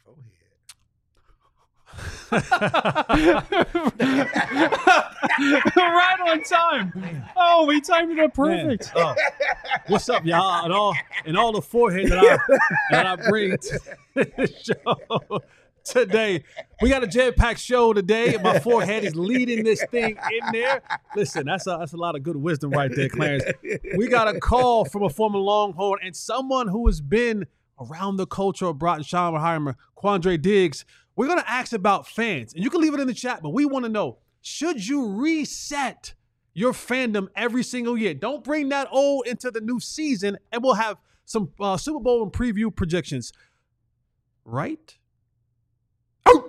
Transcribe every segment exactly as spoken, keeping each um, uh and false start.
Right on time. Oh, we timed it up perfect. Oh. What's up, y'all? And all and all the forehead that I that I bring to the show today. We got a jam-packed show today. My forehead is leading this thing in there. Listen, that's a that's a lot of good wisdom right there, Clarence. We got a call from a former Longhorn and someone who has been around the culture of Broughton Schottenheimer, Quandre Diggs. We're going to ask about fans, and you can leave it in the chat, but we want to know, should you reset your fandom every single year? Don't bring that old into the new season, and we'll have some uh, Super Bowl and preview projections. Right? Oh!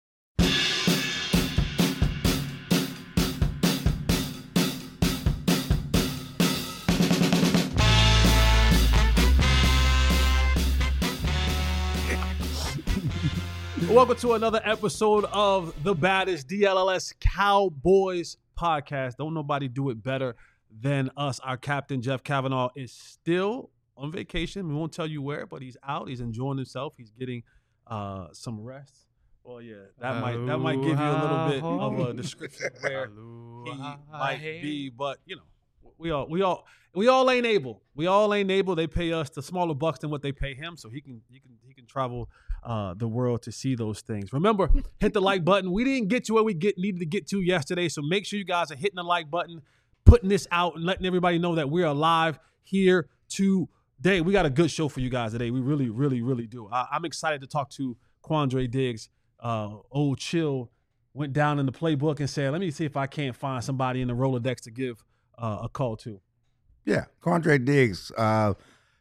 Welcome to another episode of the baddest D L L S Cowboys podcast. Don't nobody do it better than us. Our captain, Jeff Kavanaugh, is still on vacation. We won't tell you where, but he's out. He's enjoying himself. He's getting uh, some rest. Well, yeah, that might that might give you a little bit of a description of where he might be. But you know, we all we all we all ain't able. We all ain't able. They pay us the smaller bucks than what they pay him, so he can he can he can travel uh, the world to see those things. Remember, hit the like button. We didn't get to where we get needed to get to yesterday, so make sure you guys are hitting the like button, putting this out, and letting everybody know that we're alive here today. We got a good show for you guys today. We really, really, really do. I, I'm excited to talk to Quandre Diggs. Uh, old Chill went down in the playbook and said, let me see if I can't find somebody in the Rolodex to give uh, a call to. Yeah, Quandre Diggs, uh,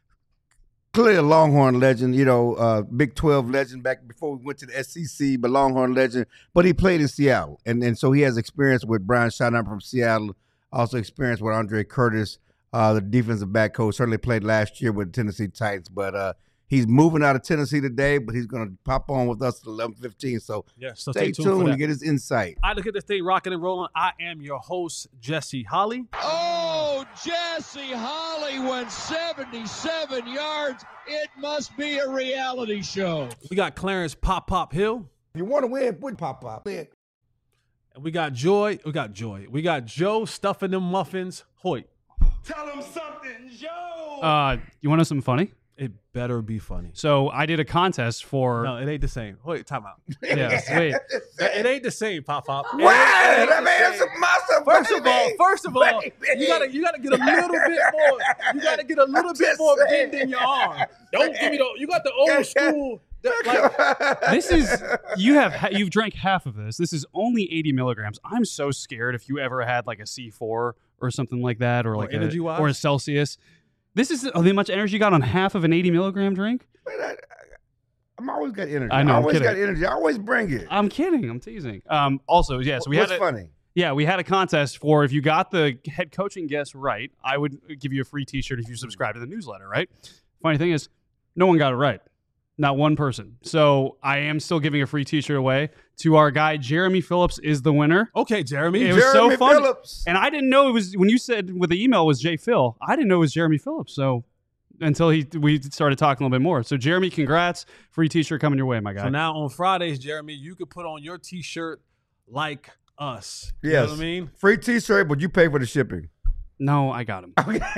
clearly a Longhorn legend, you know, uh, Big twelve legend back before we went to the S E C, but Longhorn legend. But he played in Seattle, and, and so he has experience with Brian Schottenheimer from Seattle, also experience with Andre Curtis, uh, the defensive back coach, certainly played last year with the Tennessee Titans, but uh, he's moving out of Tennessee today, but he's going to pop on with us at eleven fifteen. So, yeah, so stay, stay tuned, tuned to get his insight. I look at this thing rocking and rolling. I am your host, Jesse Holly. Oh, Jesse Holly went seventy-seven yards. It must be a reality show. We got Clarence Pop Pop Hill. If you want to win, put Pop Pop in. And we got Joy. We got Joy. We got Joe stuffing them muffins. Hoyt. Tell him something, Joe. Uh, you want to know something funny? It better be funny. So I did a contest for. No, it ain't the same. Wait, time out. Yeah, wait. It ain't the same, Pop Pop. Wow, that man's a monster. First baby. of all, first of all, Baby. you gotta you gotta get a little bit more. You gotta get a little I'm bit just more saying. bend in your arm. Don't give me the. You got the old school. Like, This is you have ha- you've drank half of this. This is only eighty milligrams. I'm so scared if you ever had like a C four or something like that, or like a, energy-wise? or a Celsius. This is oh, how much energy you got on half of an eighty milligram drink. Man, I, I'm always got energy. I know, I I'm always kidding. got energy. I always bring it. I'm kidding. I'm teasing. Um. Also, yes, yeah, so we What's had a, funny? Yeah, we had a contest for if you got the head coaching guess right, I would give you a free T-shirt if you subscribe to the newsletter. Right. Funny thing is, no one got it right. Not one person. So I am still giving a free T-shirt away to our guy. Jeremy Phillips is the winner. okay, Jeremy. It was so Jeremy fun. Phillips. And I didn't know it was, when you said with the email was Jay Phil, I didn't know it was Jeremy Phillips. So until he we started talking a little bit more. So Jeremy, congrats. Free T-shirt coming your way, my guy. So now on Fridays, Jeremy, you could put on your T-shirt like us. You Yes. know what I mean? Free T-shirt, but you pay for the shipping. no, I got him.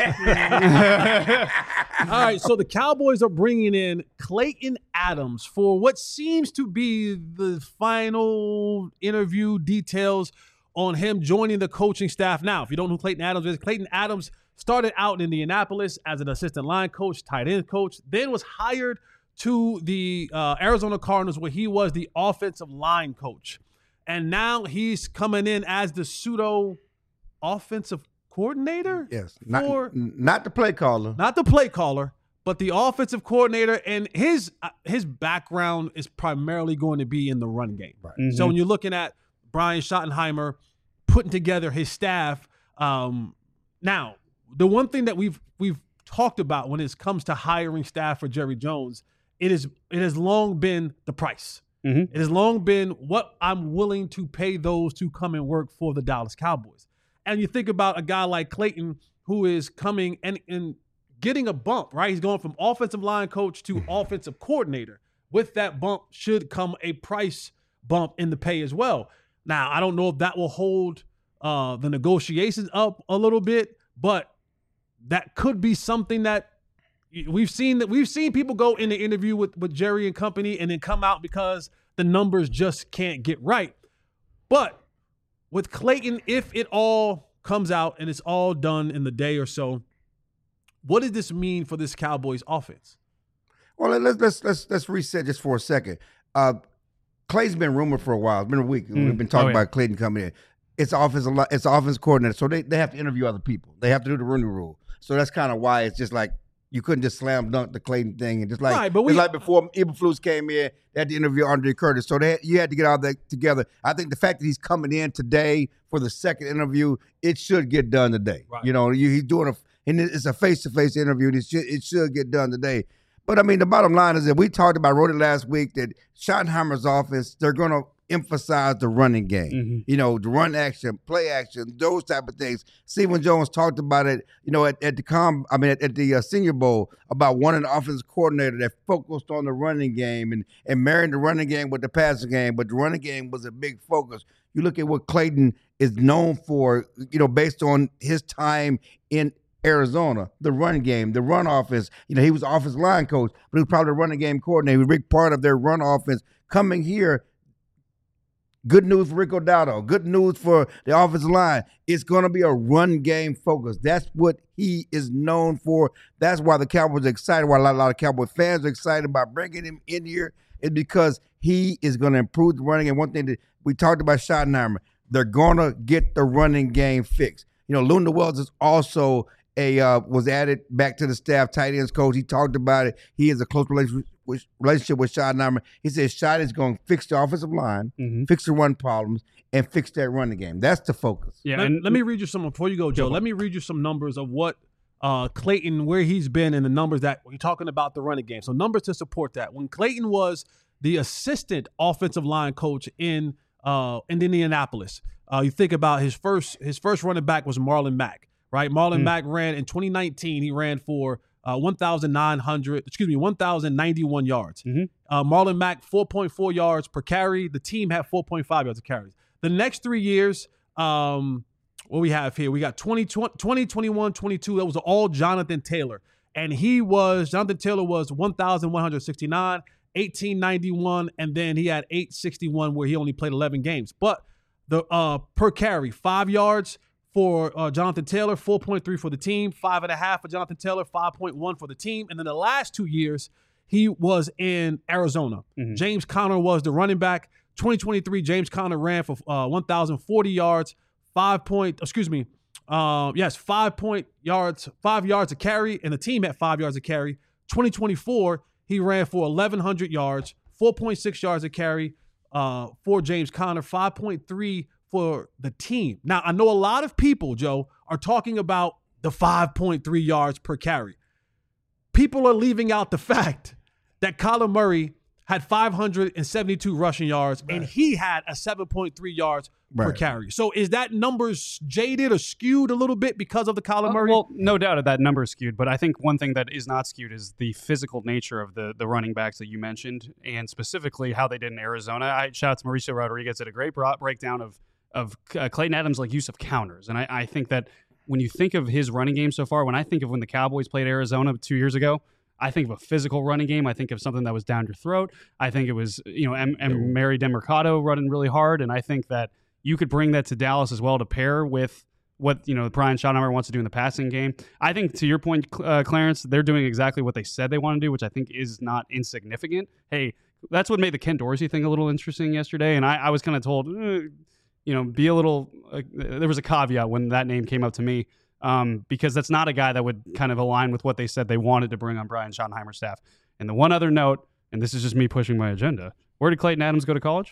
All right, so the Cowboys are bringing in Clayton Adams for what seems to be the final interview details on him joining the coaching staff. Now, if you don't know who Clayton Adams is, Clayton Adams started out in Indianapolis as an assistant line coach, tight end coach, then was hired to the uh, Arizona Cardinals where he was the offensive line coach. And now he's coming in as the pseudo offensive coordinator? Yes. Not, For- not the play caller. Not the play caller, but the offensive coordinator. And his uh, his background is primarily going to be in the run game. Right. Mhm. So when you're looking at Brian Schottenheimer putting together his staff, um, now the one thing that we've we've talked about when it comes to hiring staff for Jerry Jones, it is it has long been the price. Mhm. It has long been what I'm willing to pay those to come and work for the Dallas Cowboys. And you think about a guy like Clayton who is coming and, and getting a bump, right? He's going from offensive line coach to offensive coordinator, with that bump should come a price bump in the pay as well. Now, I don't know if that will hold uh, the negotiations up a little bit, but that could be something that we've seen that we've seen people go in the interview with, with Jerry and company and then come out because the numbers just can't get right. But with Clayton, if it all comes out and it's all done in the day or so, what does this mean for this Cowboys offense? Well, let's let's let's let's reset just for a second. Uh, Clay's been rumored for a while. It's been a week. Mm. We've been talking oh, yeah. about Clayton coming in. It's offense. It's offense coordinator, so they, they have to interview other people. They have to do the Rooney Rule. So that's kind of why it's just like you couldn't just slam dunk the Clayton thing and just like right, but we, like before Eberflus came in, they had to interview Andre Curtis. So they had, you had to get all that together. I think the fact that he's coming in today for the second interview, it should get done today. Right. You know, you, he's doing a and it's a face to face interview. And it should it should get done today. But I mean, the bottom line is that we talked about wrote it last week that Schottenheimer's offense, they're going to emphasize the running game. Mm-hmm. You know, the run action, play action, those type of things. Stephen Jones talked about it, you know, at, at the com, I mean, at, at the uh, Senior Bowl about one an offensive coordinator that focused on the running game and, and marrying the running game with the passing game, but the running game was a big focus. You look at what Clayton is known for, you know, based on his time in Arizona, the run game, the run offense. You know, he was offensive line coach, but he was probably the running game coordinator. He was a big part of their run offense. Coming here, good news for Rico Dowdle. Good news for the offensive line. It's going to be a run game focus. That's what he is known for. That's why the Cowboys are excited, why a lot, a lot of Cowboy fans are excited about bringing him in here, is because he is going to improve the running game. One thing that we talked about Schottenheimer, they're going to get the running game fixed. You know, Luna Wells is also a uh, was added back to the staff, tight ends coach. He talked about it. He has a close relationship with, relationship with Schottenheimer. He says Schott is going to fix the offensive line, mm-hmm. fix the run problems, and fix that running game. That's the focus. Yeah, let, and let me read you some before you go, Joe. Let me read you some numbers of what uh, Clayton, where he's been, and the numbers that we're talking about the running game. So numbers to support that. When Clayton was the assistant offensive line coach in uh, in Indianapolis, uh, you think about his first his first running back was Marlon Mack. Right, Marlon mm. Mack ran in twenty nineteen. He ran for uh, one thousand nine hundred, excuse me, one thousand ninety-one yards. Mm-hmm. Uh, Marlon Mack, four point four yards per carry. The team had four point five yards of carries. The next three years, um, what we have here, we got twenty, twenty, twenty-one, twenty-two. That was all Jonathan Taylor, and he was Jonathan Taylor was one thousand one hundred sixty-nine, eighteen ninety-one, and then he had eight sixty-one where he only played eleven games. But the uh, per carry, five yards. For uh, Jonathan Taylor, four point three for the team, five and a half for Jonathan Taylor, five point one for the team. And then the last two years, he was in Arizona. Mm-hmm. James Conner was the running back. twenty twenty-three, James Conner ran for uh, one thousand forty yards, five point, excuse me, uh, yes, five point yards, five yards a carry, and the team had five yards a carry. twenty twenty-four, he ran for eleven hundred yards, four point six yards a carry uh, for James Conner, five point three for the team. Now, I know a lot of people, Joe, are talking about the five point three yards per carry. People are leaving out the fact that Kyler Murray had five hundred seventy-two rushing yards, right. and he had a seven point three yards right. per carry. So is that numbers jaded or skewed a little bit because of the Kyler Murray? Uh, well, no doubt that number is skewed, but I think one thing that is not skewed is the physical nature of the the running backs that you mentioned, and specifically how they did in Arizona. I shout out to Mauricio Rodriguez did a great breakdown of of uh, Clayton Adams' like use of counters. And I, I think that when you think of his running game so far, when I think of when the Cowboys played Arizona two years ago, I think of a physical running game. I think of something that was down your throat. I think it was, you know, M- M- Mary DeMercado running really hard. And I think that you could bring that to Dallas as well to pair with what, you know, Brian Schottenheimer wants to do in the passing game. I think to your point, uh, Clarence, they're doing exactly what they said they want to do, which I think is not insignificant. Hey, that's what made the Ken Dorsey thing a little interesting yesterday. And I, I was kind of told, eh, you know, be a little, uh, there was a caveat when that name came up to me um, because that's not a guy that would kind of align with what they said they wanted to bring on Brian Schottenheimer's staff. And the one other note, and this is just me pushing my agenda, where did Clayton Adams go to college?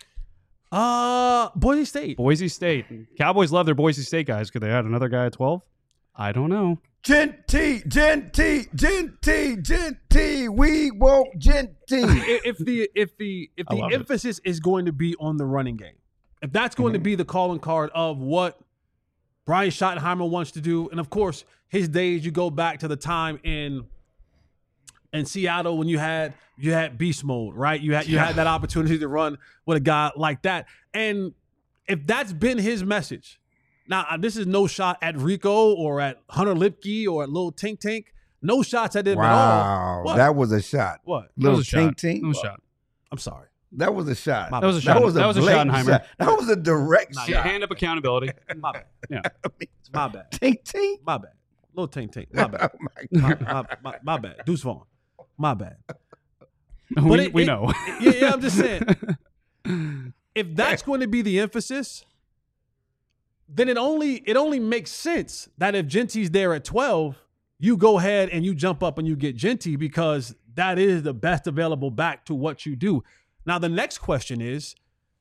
Uh, Boise State. Boise State. Cowboys love their Boise State guys. Could they add another guy at twelve? I don't know. Genty, Genty, Genty, Genty. We want Genty. If the if the if the emphasis it. is going to be on the running game, if that's going mm-hmm. to be the calling card of what Brian Schottenheimer wants to do, and of course, his days, you go back to the time in in Seattle when you had you had beast mode, right? You had you had that opportunity to run with a guy like that. And if that's been his message, now this is no shot at Rico or at Hunter Lipke or at Lil Tink Tink. No shots at them wow, at all. What? That was a shot. What? Little that was a Tink shot. Tink. That was a shot. I'm sorry. That was a shot. My That was a bad. shot. That was a, that was a blatant Schottenheimer. shot. That was a direct Nah, shot. yeah. Hand up accountability. My bad. I mean, My bad. Tink Tink. My bad. Lil Tink Tink. My bad. Oh my My, God. my, my, my bad. Deuce Vaughn. My bad. we it- we it- know. Yeah, yeah, I'm just saying. If that's going to be the emphasis, then it only it only makes sense that if Genty's there at twelve, you go ahead and you jump up and you get Genty because that is the best available back to what you do. Now, the next question is,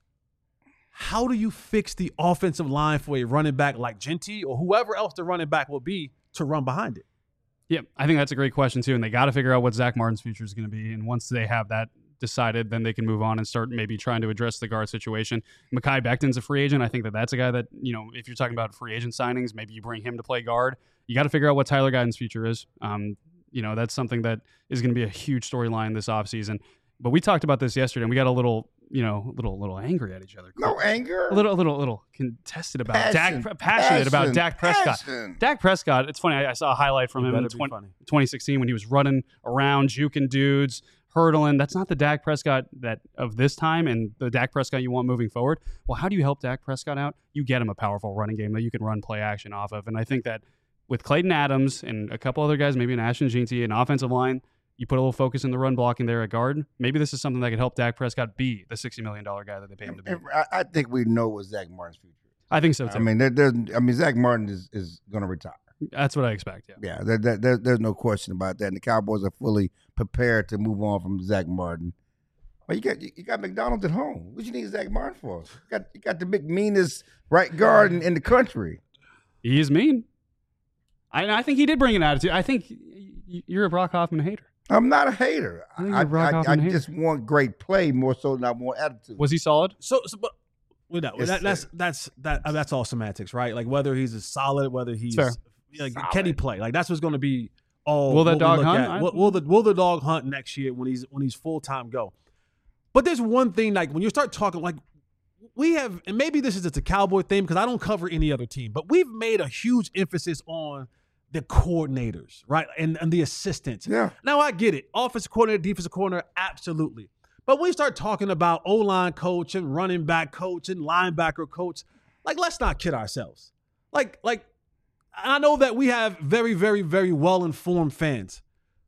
how do you fix the offensive line for a running back like Genty or whoever else the running back will be to run behind it? Yeah, I think that's a great question too, and they got to figure out what Zach Martin's future is going to be. And once they have that decided, then they can move on and start maybe trying to address the guard situation. Mekhi Becton's a free agent. I think that that's a guy that, you know, if you're talking about free agent signings, maybe you bring him to play guard. You got to figure out what Tyler Guyton's future is. Um, you know, that's something that is going to be a huge storyline this offseason. But we talked about this yesterday, and we got a little, you know, little little angry at each other. No anger. A little, a little, little contested about Passion, Dak, passionate about passion, Dak Prescott. passion. Dak Prescott. It's funny. I, I saw a highlight from You him in better be twenty, funny. twenty sixteen when he was running around, juking dudes, hurdling. That's not the Dak Prescott that of this time, and the Dak Prescott you want moving forward. Well, how do you help Dak Prescott out? You get him a powerful running game that you can run play action off of, and I think that with Clayton Adams and a couple other guys, maybe an Ashton Jeanty, an offensive line. You put a little focus in the run blocking there at guard. Maybe this is something that could help Dak Prescott be the sixty million dollars guy that they pay him to be. And I, I think we know what Zach Martin's future is. I think so too. I mean, there, there's, I mean, Zach Martin is, is going to retire. That's what I expect. Yeah. Yeah, there, there, there, there's no question about that. And the Cowboys are fully prepared to move on from Zach Martin. But you got you got McDonald's at home. What you need Zach Martin for? You got you got the big meanest right guard in, in the country. He is mean. I, I think he did bring an attitude. I think y- you're a Brock Hoffman hater. I'm not a hater. I think I, you're Brock I, I Hoffman hater. just want great play more so than I want attitude. Was he solid? So, so but with that, Yes, that that's sir. that's that uh, that's all semantics, right? Like whether he's a solid, whether he's Fair. like Solid. can he play? Like that's what's going to be all. Will that what we dog look hunt? at. I- Will, will the will the dog hunt next year when he's when he's full time go? But there's one thing like when you start talking like we have, and maybe this is just a Cowboy thing because I don't cover any other team, but we've made a huge emphasis on the coordinators, right, and and the assistants. Yeah. Now I get it. Offensive coordinator, defensive coordinator, absolutely. But when we start talking about O-line coach and running back coach and linebacker coach, like let's not kid ourselves. Like, like I know that we have very, very, very well-informed fans,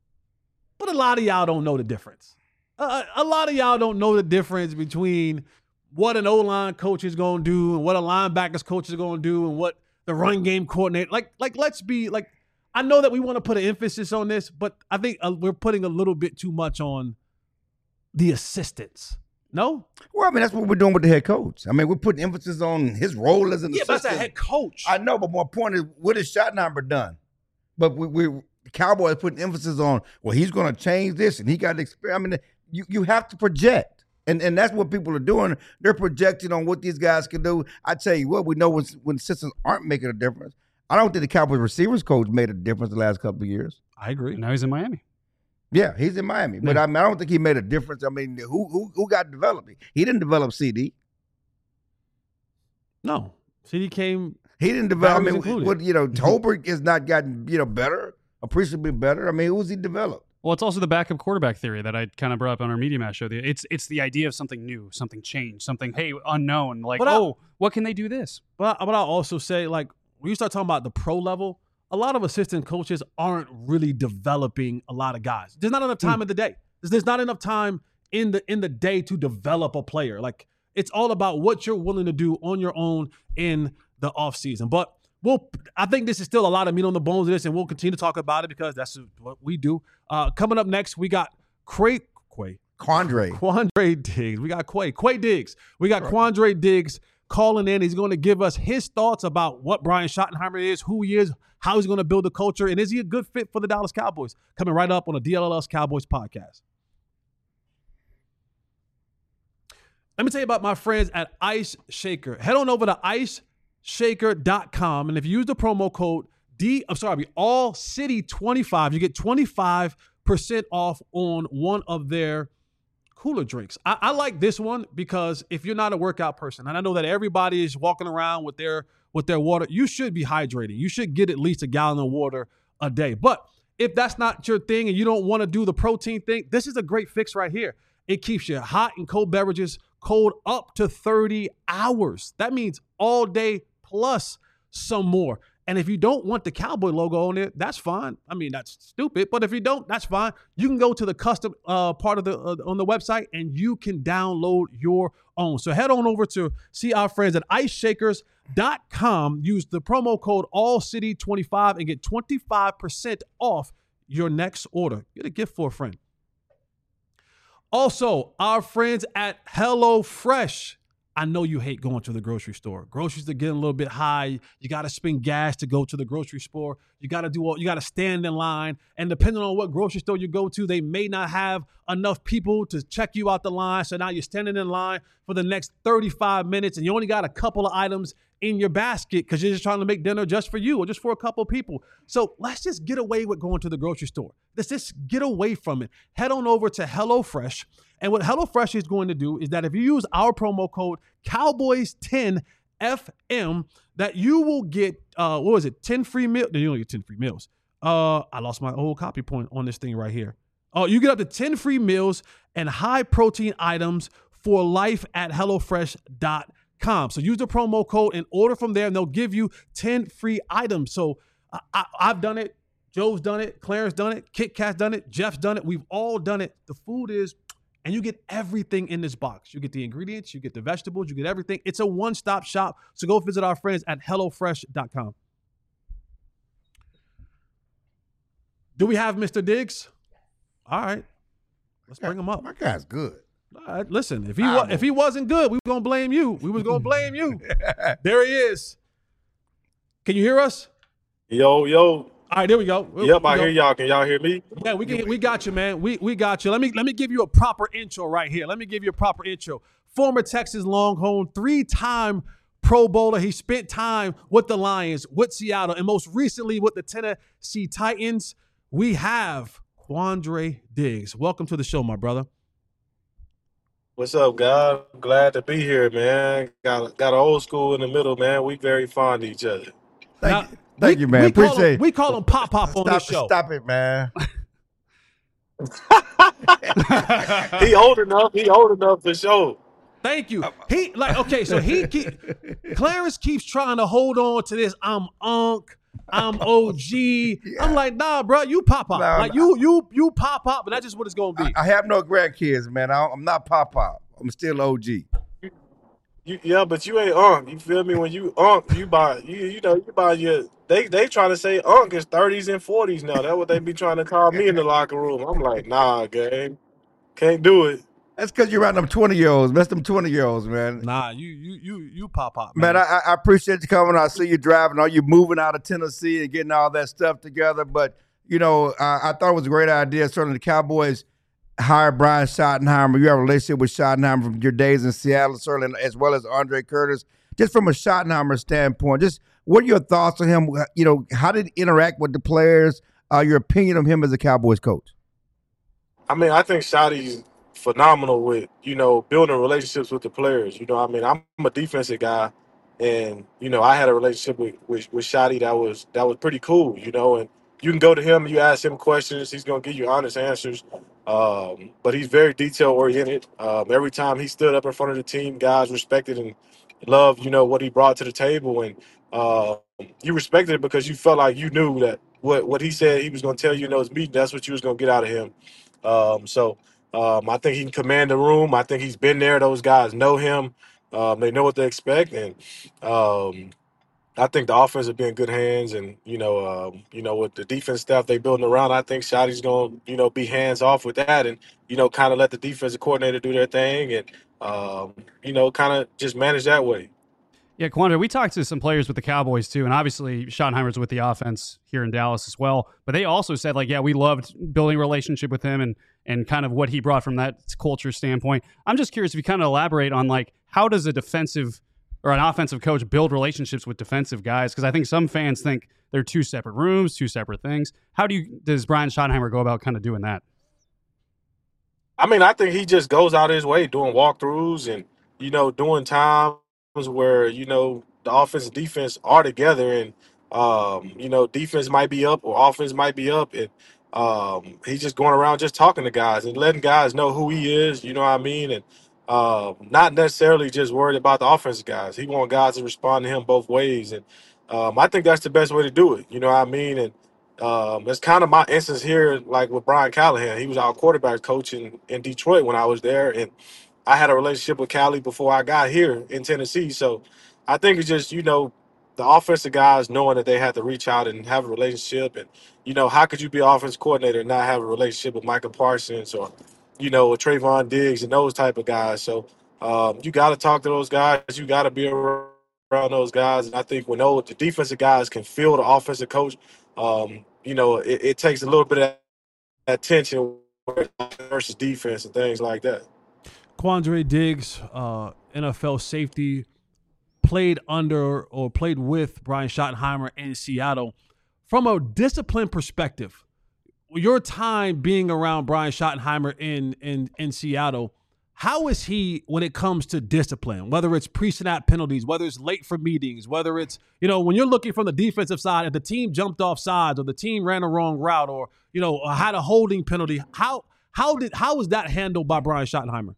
but a lot of y'all don't know the difference. Uh, a lot of y'all don't know the difference between what an O-line coach is going to do and what a linebackers coach is going to do and what the run game coordinator. Like, like let's be like. I know that we want to put an emphasis on this, but I think uh, we're putting a little bit too much on the assistants. No? Well, I mean, that's what we're doing with the head coach. I mean, we're putting emphasis on his role as an Yeah, but that's assistant. a head coach. I know, but my point is, what has Schottenheimer done? But we, we the Cowboys putting emphasis on, well, he's going to change this, and he got experience. I mean, you, you have to project, and and that's what people are doing. They're projecting on what these guys can do. I tell you what, we know when when assistants aren't making a difference. I don't think the Cowboys receivers coach made a difference the last couple of years. I agree. And now he's in Miami. Yeah, he's in Miami, but I mean, I don't think he made a difference. I mean, who who who got developed? He didn't develop C D. No. C D came. He didn't develop. I Barry was mean, included. what you know, Tolbert has not gotten you know better, appreciably better. I mean, who's he developed? Well, it's also the backup quarterback theory that I kind of brought up on our Media Mash show. It's it's the idea of something new, something changed, something, hey, unknown. Like, But I- oh, what can they do this? But, I- but I'll also say, like, when you start talking about the pro level, a lot of assistant coaches aren't really developing a lot of guys. There's not enough time in the day. There's, there's not enough time in the in the day to develop a player. Like, it's all about what you're willing to do on your own in the offseason. But we'll, I think this is still a lot of meat on the bones of this, and we'll continue to talk about it because that's what we do. Uh, coming up next, we got Cray, Quay, Quandre. Quandre Diggs. We got Quay. Quay Diggs. We got Quandre Diggs calling in. He's going to give us his thoughts about what Brian Schottenheimer is, who he is, how he's going to build a culture, and is he a good fit for the Dallas Cowboys? Coming right up on the D L L S Cowboys podcast. Let me tell you about my friends at Ice Shaker. Head on over to ice shaker dot com, and if you use the promo code D, I'm sorry, all city twenty-five, you get twenty-five percent off on one of their cooler drinks. I, I like this one because if you're not a workout person, and I know that everybody is walking around with their with their water, you should be hydrating. You should get at least a gallon of water a day. But if that's not your thing and you don't want to do the protein thing, this is a great fix right here. It keeps your hot and cold beverages cold up to thirty hours. That means all day plus some more. And if you don't want the Cowboy logo on it, that's fine. I mean, that's stupid, but if you don't, that's fine. You can go to the custom uh, part of the uh, on the website and you can download your own. So head on over to see our friends at ice shakers dot com. Use the promo code all city twenty-five and get twenty-five percent off your next order. Get a gift for a friend. Also, our friends at HelloFresh. I know you hate going to the grocery store. Groceries are getting a little bit high. You got to spend gas to go to the grocery store. You got to do all, you got to stand in line. And depending on what grocery store you go to, they may not have enough people to check you out the line. So now you're standing in line for the next thirty-five minutes and you only got a couple of items in your basket because you're just trying to make dinner just for you or just for a couple of people. So let's just get away with going to the grocery store. Let's just get away from it. Head on over to HelloFresh. And what HelloFresh is going to do is that if you use our promo code Cowboys ten F M, that you will get, uh, what was it, ten free meals? No, you don't get ten free meals. Uh, I lost my old copy point on this thing right here. Oh, you get up to ten free meals and high protein items for life at HelloFresh dot com. So use the promo code and order from there, and they'll give you ten free items. So I, I, I've done it. Joe's done it. Clarence done it. Kit Kat's done it. Jeff's done it. We've all done it. The food is, and you get everything in this box. You get the ingredients, you get the vegetables, you get everything. It's a one-stop shop. So go visit our friends at HelloFresh dot com. Do we have Mister Diggs? All right. Let's bring him up. My guy's good. All right, listen, if he wa- if he wasn't good, we were going to blame you. We was going to blame you. There he is. Can you hear us? Yo, yo. All right, there we go. Yep, we I go. hear y'all. Can y'all hear me? Yeah, we can, we got you, man. We we got you. Let me let me give you a proper intro right here. Let me give you a proper intro. Former Texas Longhorn, three-time Pro Bowler. He spent time with the Lions, with Seattle, and most recently with the Tennessee Titans. We have Quandre Diggs. Welcome to the show, my brother. What's up, guys? Glad to be here, man. Got got an old school in the middle, man. We very fond of each other. Thank Now, you, Thank we, you man. We Appreciate call him, it. we call him Pop Pop on Stop, this show. stop it, man. He old enough. He old enough for sure. Thank you. He like okay, so he keep, Clarence keeps trying to hold on to this. I'm Unc. I'm O G. Yeah. I'm like, nah, bro, you Pop Pop. No, like no. you you you Pop Pop, but that's just what it's gonna be. I, I have no grandkids, man. I, I'm not Pop Pop. I'm still O G. You, yeah, but you ain't Unc. You feel me? When you Unc, you buy you you know you buy your. They they trying to say Unc is thirties and forties now. That's what they be trying to call me in the locker room. I'm like, nah, gang, can't do it. That's because you're around them twenty year olds. That's them twenty year olds, man. Nah, you you you you Pop Pop, Man, I, I appreciate you coming. I see you driving. Are you moving out of Tennessee and getting all that stuff together? But, you know, uh, I thought it was a great idea. Certainly the Cowboys hired Brian Schottenheimer. You have a relationship with Schottenheimer from your days in Seattle, certainly, as well as Andre Curtis. Just from a Schottenheimer standpoint, just what are your thoughts on him? You know, how did he interact with the players? Uh, your opinion of him as a Cowboys coach? I mean, I think Shotty's phenomenal with, you know, building relationships with the players. You know, I mean, I'm a defensive guy, and, you know, I had a relationship with, with, with Shotty that was that was pretty cool, you know, and you can go to him, you ask him questions, he's going to give you honest answers, um, but he's very detail-oriented. Um, every time he stood up in front of the team, guys respected and loved, you know, what he brought to the table, and uh, you respected it because you felt like you knew that what, what he said he was going to tell you in those meetings, that's what you was going to get out of him. Um, so, Um, I think he can command the room. I think he's been there. Those guys know him. Um, they know what they expect, and um, I think the offense will be in good hands. And you know, um, you know, with the defense staff they building around, I think Shotty's going to, you know, be hands off with that, and you know, kind of let the defensive coordinator do their thing, and um, you know, kind of just manage that way. Yeah, Quandre, we talked to some players with the Cowboys too, and obviously Schottenheimer's with the offense here in Dallas as well. But they also said, like, yeah, we loved building a relationship with him and and kind of what he brought from that culture standpoint. I'm just curious if you kind of elaborate on, like, how does a defensive or an offensive coach build relationships with defensive guys? Because I think some fans think they're two separate rooms, two separate things. How do you does Brian Schottenheimer go about kind of doing that? I mean, I think he just goes out of his way doing walkthroughs and, you know, doing times where, you know, the offense and defense are together and, um, you know, defense might be up or offense might be up. And um, he's just going around just talking to guys and letting guys know who he is, you know what I mean? And uh, not necessarily just worried about the offensive guys. He wants guys to respond to him both ways. And um, I think that's the best way to do it, you know what I mean? And Um, it's kind of my instance here, like with Brian Callahan. He was our quarterback coach in, in Detroit when I was there, and I had a relationship with Cali before I got here in Tennessee. So I think it's just, you know, the offensive guys knowing that they had to reach out and have a relationship. And, you know, how could you be an offensive coordinator and not have a relationship with Micah Parsons or, you know, with Trayvon Diggs and those type of guys? So um, you got to talk to those guys. You got to be around those guys. And I think when those, the defensive guys can feel the offensive coach, um, you know, it, it takes a little bit of that tension versus defense and things like that. Quandre Diggs, uh, N F L safety, played under or played with Brian Schottenheimer in Seattle. From a discipline perspective, your time being around Brian Schottenheimer in, in, in Seattle, how is he when it comes to discipline, whether it's pre-snap penalties, whether it's late for meetings, whether it's, you know, when you're looking from the defensive side, if the team jumped off sides or the team ran a wrong route or, you know, had a holding penalty, how how did how was that handled by Brian Schottenheimer?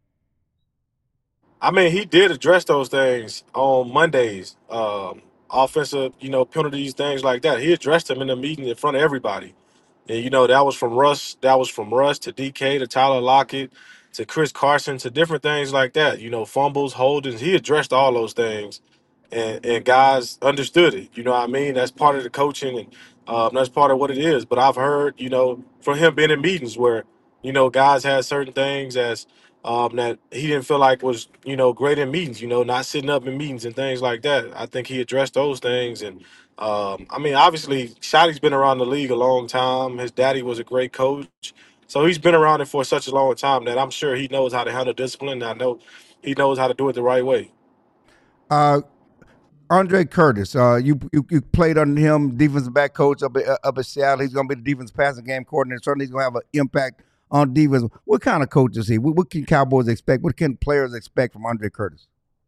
I mean, he did address those things on Mondays, um, offensive, you know, penalties, things like that. He addressed them in the meeting in front of everybody. And, you know, that was from Russ, that was from Russ to D K to Tyler Lockett to Chris Carson to different things like that. You know, fumbles, holdings. He addressed all those things, and and guys understood it. You know what I mean? That's part of the coaching, and um, that's part of what it is. But I've heard, you know, from him being in meetings where, you know, guys had certain things as um, that he didn't feel like was, you know, great in meetings. You know, not sitting up in meetings and things like that. I think he addressed those things, and um, I mean, obviously, Shotty's been around the league a long time. His daddy was a great coach. So he's been around it for such a long time that I'm sure he knows how to handle discipline. And I know he knows how to do it the right way. Uh, Andre Curtis, uh, you, you you played under him, defensive back coach up at, up at Seattle. He's going to be the defensive passing game coordinator. Certainly he's going to have an impact on defense. What kind of coach is he? What, what can Cowboys expect? What can players expect from Andre Curtis?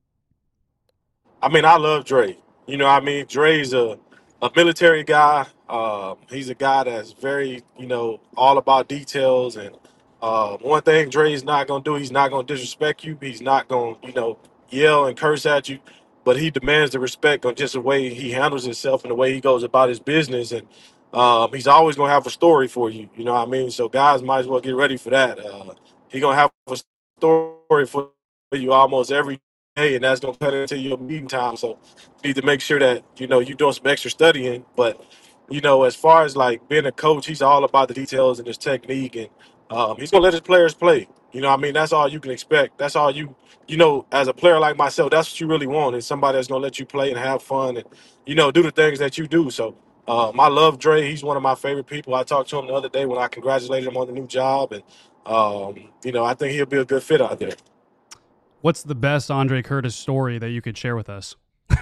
I mean, I love Dre. You know what I mean? Dre's a, a military guy. Um, he's a guy that's very, you know, all about details. And uh, one thing Dre's not going to do, he's not going to disrespect you. He's not going to, you know, yell and curse at you. But he demands the respect on just the way he handles himself and the way he goes about his business. And um, he's always going to have a story for you. You know what I mean? So guys might as well get ready for that. Uh, he's going to have a story for you almost every day, and that's going to cut into your meeting time. So you need to make sure that, you know, you're doing some extra studying. But, you know, as far as like being a coach, he's all about the details and his technique. And um, he's going to let his players play. You know what I mean? That's all you can expect. That's all you, you know, as a player like myself, that's what you really want, is somebody that's going to let you play and have fun and, you know, do the things that you do. So um, I love Dre. He's one of my favorite people. I talked to him the other day when I congratulated him on the new job. And, um, you know, I think he'll be a good fit out there. What's the best Andre Curtis story that you could share with us?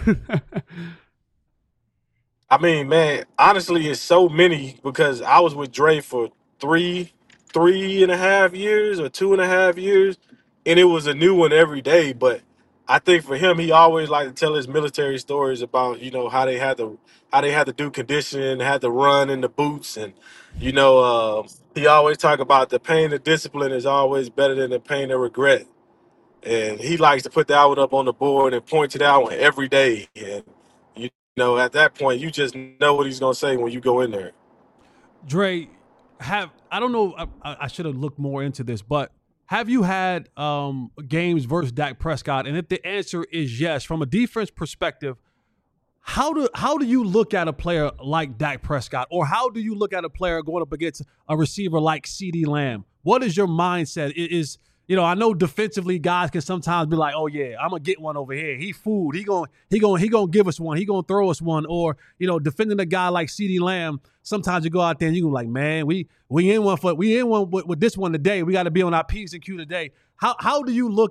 I mean, man, honestly, it's so many because I was with Dre for three, three and a half years or two and a half years, and it was a new one every day. But I think for him, he always liked to tell his military stories about, you know, how they had to, how they had to do conditioning, had to run in the boots, and you know, uh, he always talk about the pain of discipline is always better than the pain of regret. And he likes to put that one up on the board and point to that one every day. And, you know, at that point, you just know what he's going to say when you go in there. Dre, have I don't know, I, I should have looked more into this, but have you had um, games versus Dak Prescott? And if the answer is yes, from a defense perspective, how do how do you look at a player like Dak Prescott? Or how do you look at a player going up against a receiver like CeeDee Lamb? What is your mindset? It is You know, I know defensively guys can sometimes be like, "Oh yeah, I'm gonna get one over here. He fooled. He gonna he gonna he gonna give us one. He gonna throw us one." Or you know, defending a guy like CeeDee Lamb, sometimes you go out there and you go like, "Man, we we in one for we in one with, with this one today. We got to be on our P's and Q today." How how do you look at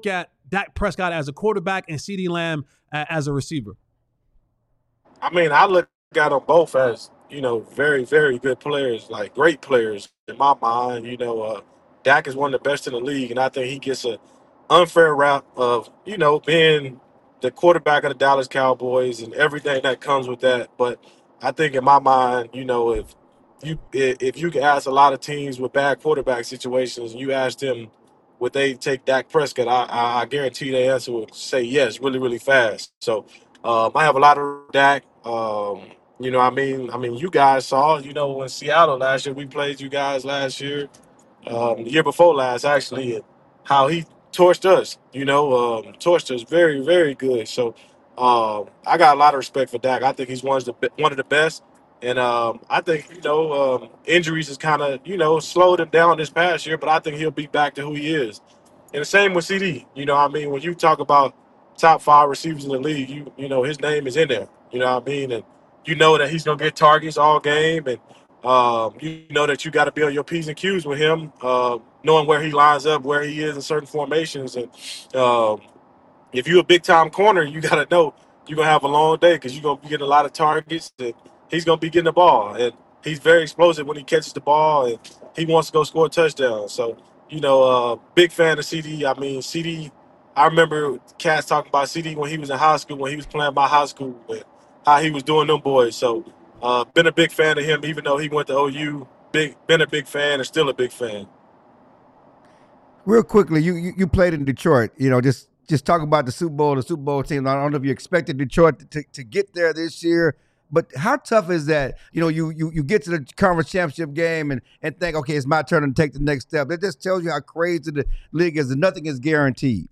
Dak Prescott as a quarterback and CeeDee Lamb a, as a receiver? I mean, I look at them both as, you know, very, very good players, like great players in my mind. You know, uh, Dak is one of the best in the league, and I think he gets a unfair rap of, you know, being the quarterback of the Dallas Cowboys and everything that comes with that. But I think in my mind, you know, if you if you can ask a lot of teams with bad quarterback situations, you ask them would they take Dak Prescott, I, I, I guarantee the answer would say yes, really, really fast. So um, I have a lot of Dak. Um, you know, I mean, I mean, you guys saw, you know, in Seattle last year, we played you guys last year, um, the year before last, actually, and how he torched us. You know, um, torched us very, very good. So um, I got a lot of respect for Dak. I think he's one of the be- one of the best. And um, I think, you know, um, injuries has kind of, you know, slowed him down this past year, but I think he'll be back to who he is. And the same with C D. You know, I mean, when you talk about top five receivers in the league, you you know, his name is in there. You know what I mean? And you know that he's going to get targets all game. And um, you know that you got to be on your P's and Q's with him, uh, knowing where he lines up, where he is in certain formations. And um, if you're a big-time corner, you got to know you're going to have a long day because you're going to be getting a lot of targets. And he's going to be getting the ball. And he's very explosive when he catches the ball, and he wants to go score a touchdown. So, you know, uh, big fan of C D. I mean, C D, I remember Cass talking about C D when he was in high school, when he was playing my high school, and how he was doing them boys. So, uh, been a big fan of him, even though he went to O U. Big, been a big fan and still a big fan. Real quickly, you, you you played in Detroit. You know, just just talk about the Super Bowl, the Super Bowl team. I don't know if you expected Detroit to, to get there this year, but how tough is that? You know, you you you get to the conference championship game and, and think, okay, it's my turn to take the next step. It just tells you how crazy the league is, and nothing is guaranteed.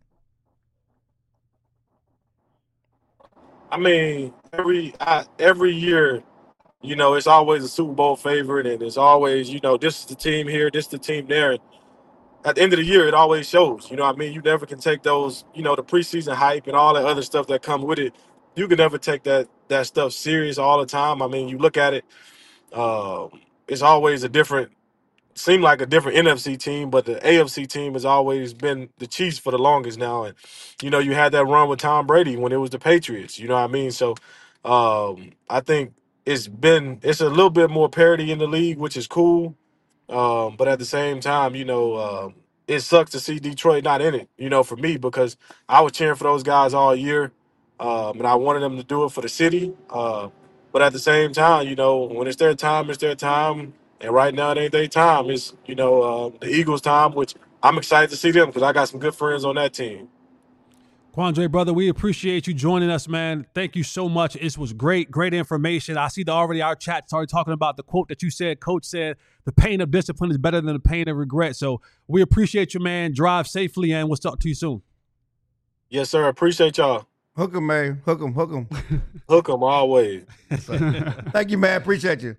I mean, every I, every year, you know, it's always a Super Bowl favorite, and it's always, you know, this is the team here, this is the team there. And at the end of the year, it always shows. You know what I mean? You never can take those, you know, the preseason hype and all that other stuff that come with it. You can never take that that stuff serious all the time. I mean, you look at it, um, it's always a different, seem like a different N F C team, but the A F C team has always been the Chiefs for the longest now. And, you know, you had that run with Tom Brady when it was the Patriots. You know what I mean? So um, I think it's been, it's a little bit more parity in the league, which is cool. Um, but at the same time, you know, um, it sucks to see Detroit not in it, you know, for me, because I was cheering for those guys all year. Um, and I wanted them to do it for the city. Uh, but at the same time, you know, when it's their time, it's their time. And right now, it ain't their time. It's, you know, uh, the Eagles' time, which I'm excited to see them because I got some good friends on that team. Quandre, brother, we appreciate you joining us, man. Thank you so much. It was great, great information. I see that already our chat started talking about the quote that you said. Coach said, the pain of discipline is better than the pain of regret. So we appreciate you, man. Drive safely, and we'll talk to you soon. Yes, sir. Appreciate y'all. Hook 'em, man. Hook 'em, hook 'em. Hook 'em always. Thank you, man. Appreciate you.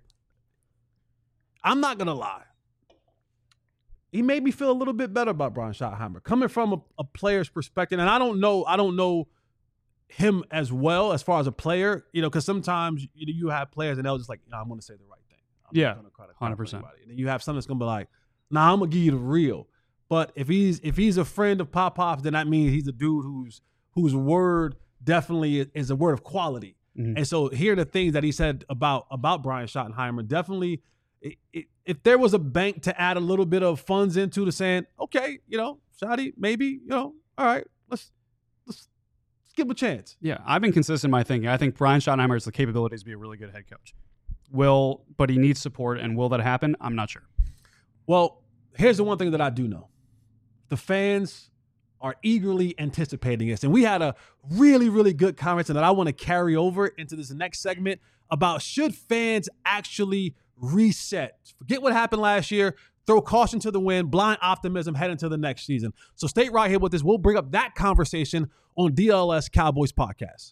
I'm not going to lie. He made me feel a little bit better about Brian Schottenheimer coming from a, a player's perspective. And I don't know, I don't know him as well as far as a player, you know, because sometimes you, you have players and they'll just like, no, I'm going to say the right thing. I'm yeah, one hundred percent. And then you have someone that's going to be like, nah, I'm going to give you the real. But if he's if he's a friend of Pop Pop's, then that means he's a dude who's whose word definitely is, is a word of quality. Mm-hmm. And so here are the things that he said about about Brian Schottenheimer. Definitely, it, it, if there was a bank to add a little bit of funds into to saying, okay, you know, Shotty, maybe, you know, all right, let's let's, let's give him a chance. Yeah, I've been consistent in my thinking. I think Brian Schottenheimer has the capabilities to be a really good head coach. Will, but he needs support, and will that happen? I'm not sure. Well, here's the one thing that I do know. The fans are eagerly anticipating this. And we had a really, really good conversation that I want to carry over into this next segment about should fans actually reset? Forget what happened last year. Throw caution to the wind, blind optimism, head into the next season. So stay right here with us. We'll bring up that conversation on D L S Cowboys Podcast.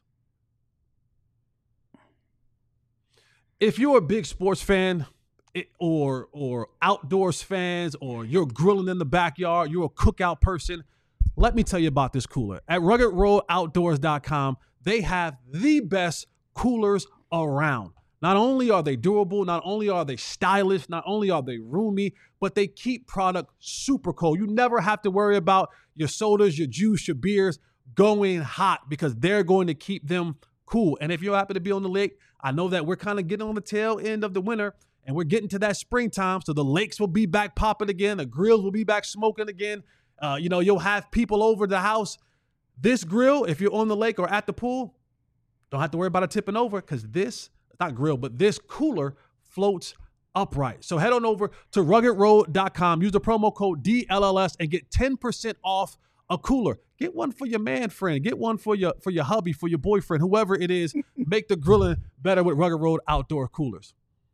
If you're a big sports fan, It, or or outdoors fans, or you're grilling in the backyard, you're a cookout person, let me tell you about this cooler. At rugged road outdoors dot com, they have the best coolers around. Not only are they durable, not only are they stylish, not only are they roomy, but they keep product super cold. You never have to worry about your sodas, your juice, your beers going hot because they're going to keep them cool. And if you happen to be on the lake, I know that we're kind of getting on the tail end of the winter and we're getting to that springtime. So the lakes will be back popping again. The grills will be back smoking again. Uh, you know, you'll have people over the house. This grill, if you're on the lake or at the pool, don't have to worry about it tipping over because this, not grill, but this cooler floats upright. So head on over to rugged road dot com. Use the promo code D L L S and get ten percent off a cooler. Get one for your man friend. Get one for your for your hubby, for your boyfriend, whoever it is. Make the grilling better with Rugged Road outdoor coolers.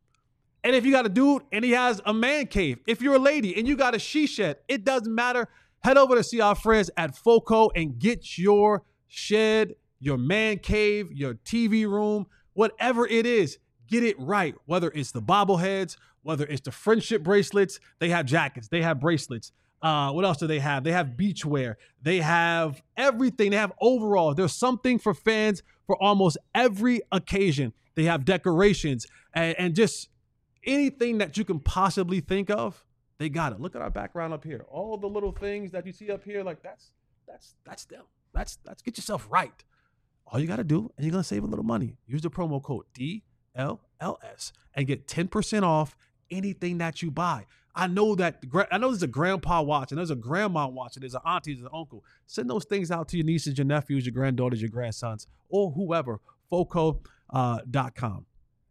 And if you got a dude and he has a man cave, if you're a lady and you got a she shed, it doesn't matter. Head over to see our friends at FOCO and get your shed, your man cave, your T V room, whatever it is, get it right. Whether it's the bobbleheads, whether it's the friendship bracelets, they have jackets, they have bracelets. Uh, what else do they have? They have beachwear. They have everything. They have overalls. There's something for fans for almost every occasion. They have decorations and, and just anything that you can possibly think of. They got it. Look at our background up here. All the little things that you see up here, like that's that's that's them. That's that's get yourself right. All you got to do, and you're gonna save a little money. Use the promo code D L L S and get ten percent off anything that you buy. I know that I know there's a grandpa watching, there's a grandma watching, there's an auntie, there's an uncle. Send those things out to your nieces, your nephews, your granddaughters, your grandsons, or whoever. Foco dot com.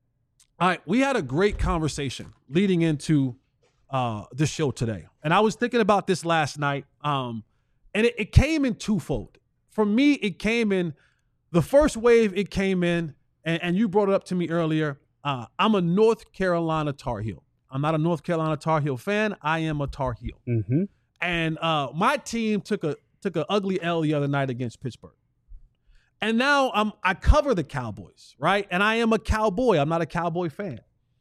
All right, we had a great conversation leading into uh, the show today. And I was thinking about this last night, um, and it, it came in twofold. For me, it came in, the first wave it came in, and, and you brought it up to me earlier, uh, I'm a North Carolina Tar Heel. I'm not a North Carolina Tar Heel fan. I am a Tar Heel. Mm-hmm. And uh, my team took a took an ugly L the other night against Pittsburgh. And now I'm I cover the Cowboys, right? And I am a Cowboy. I'm not a Cowboy fan.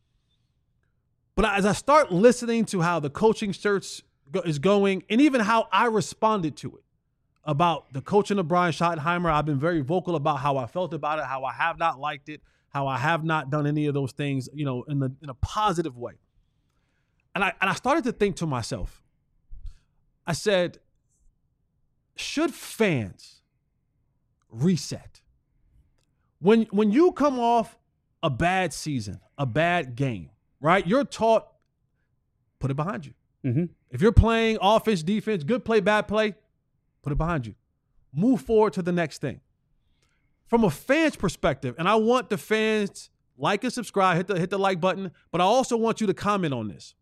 But as I start listening to how the coaching search go, is going, and even how I responded to it, about the coaching of Brian Schottenheimer, I've been very vocal about how I felt about it, how I have not liked it, how I have not done any of those things, you know, in the in a positive way. And I and I started to think to myself, I said, should fans reset? When when you come off a bad season, a bad game, right? You're taught, put it behind you. Mm-hmm. If you're playing offense, defense, good play, bad play, put it behind you. Move forward to the next thing. From a fan's perspective, and I want the fans like and subscribe, hit the hit the like button, but I also want you to comment on this.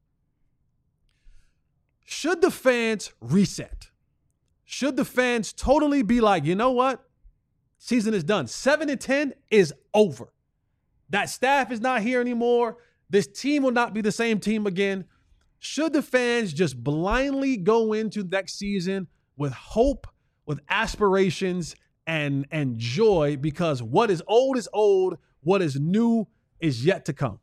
Should the fans reset? Should the fans totally be like, you know what? Season is done. Seven and ten is over. That staff is not here anymore. This team will not be the same team again. Should the fans just blindly go into next season with hope, with aspirations, and, and joy, because what is old is old, what is new is yet to come?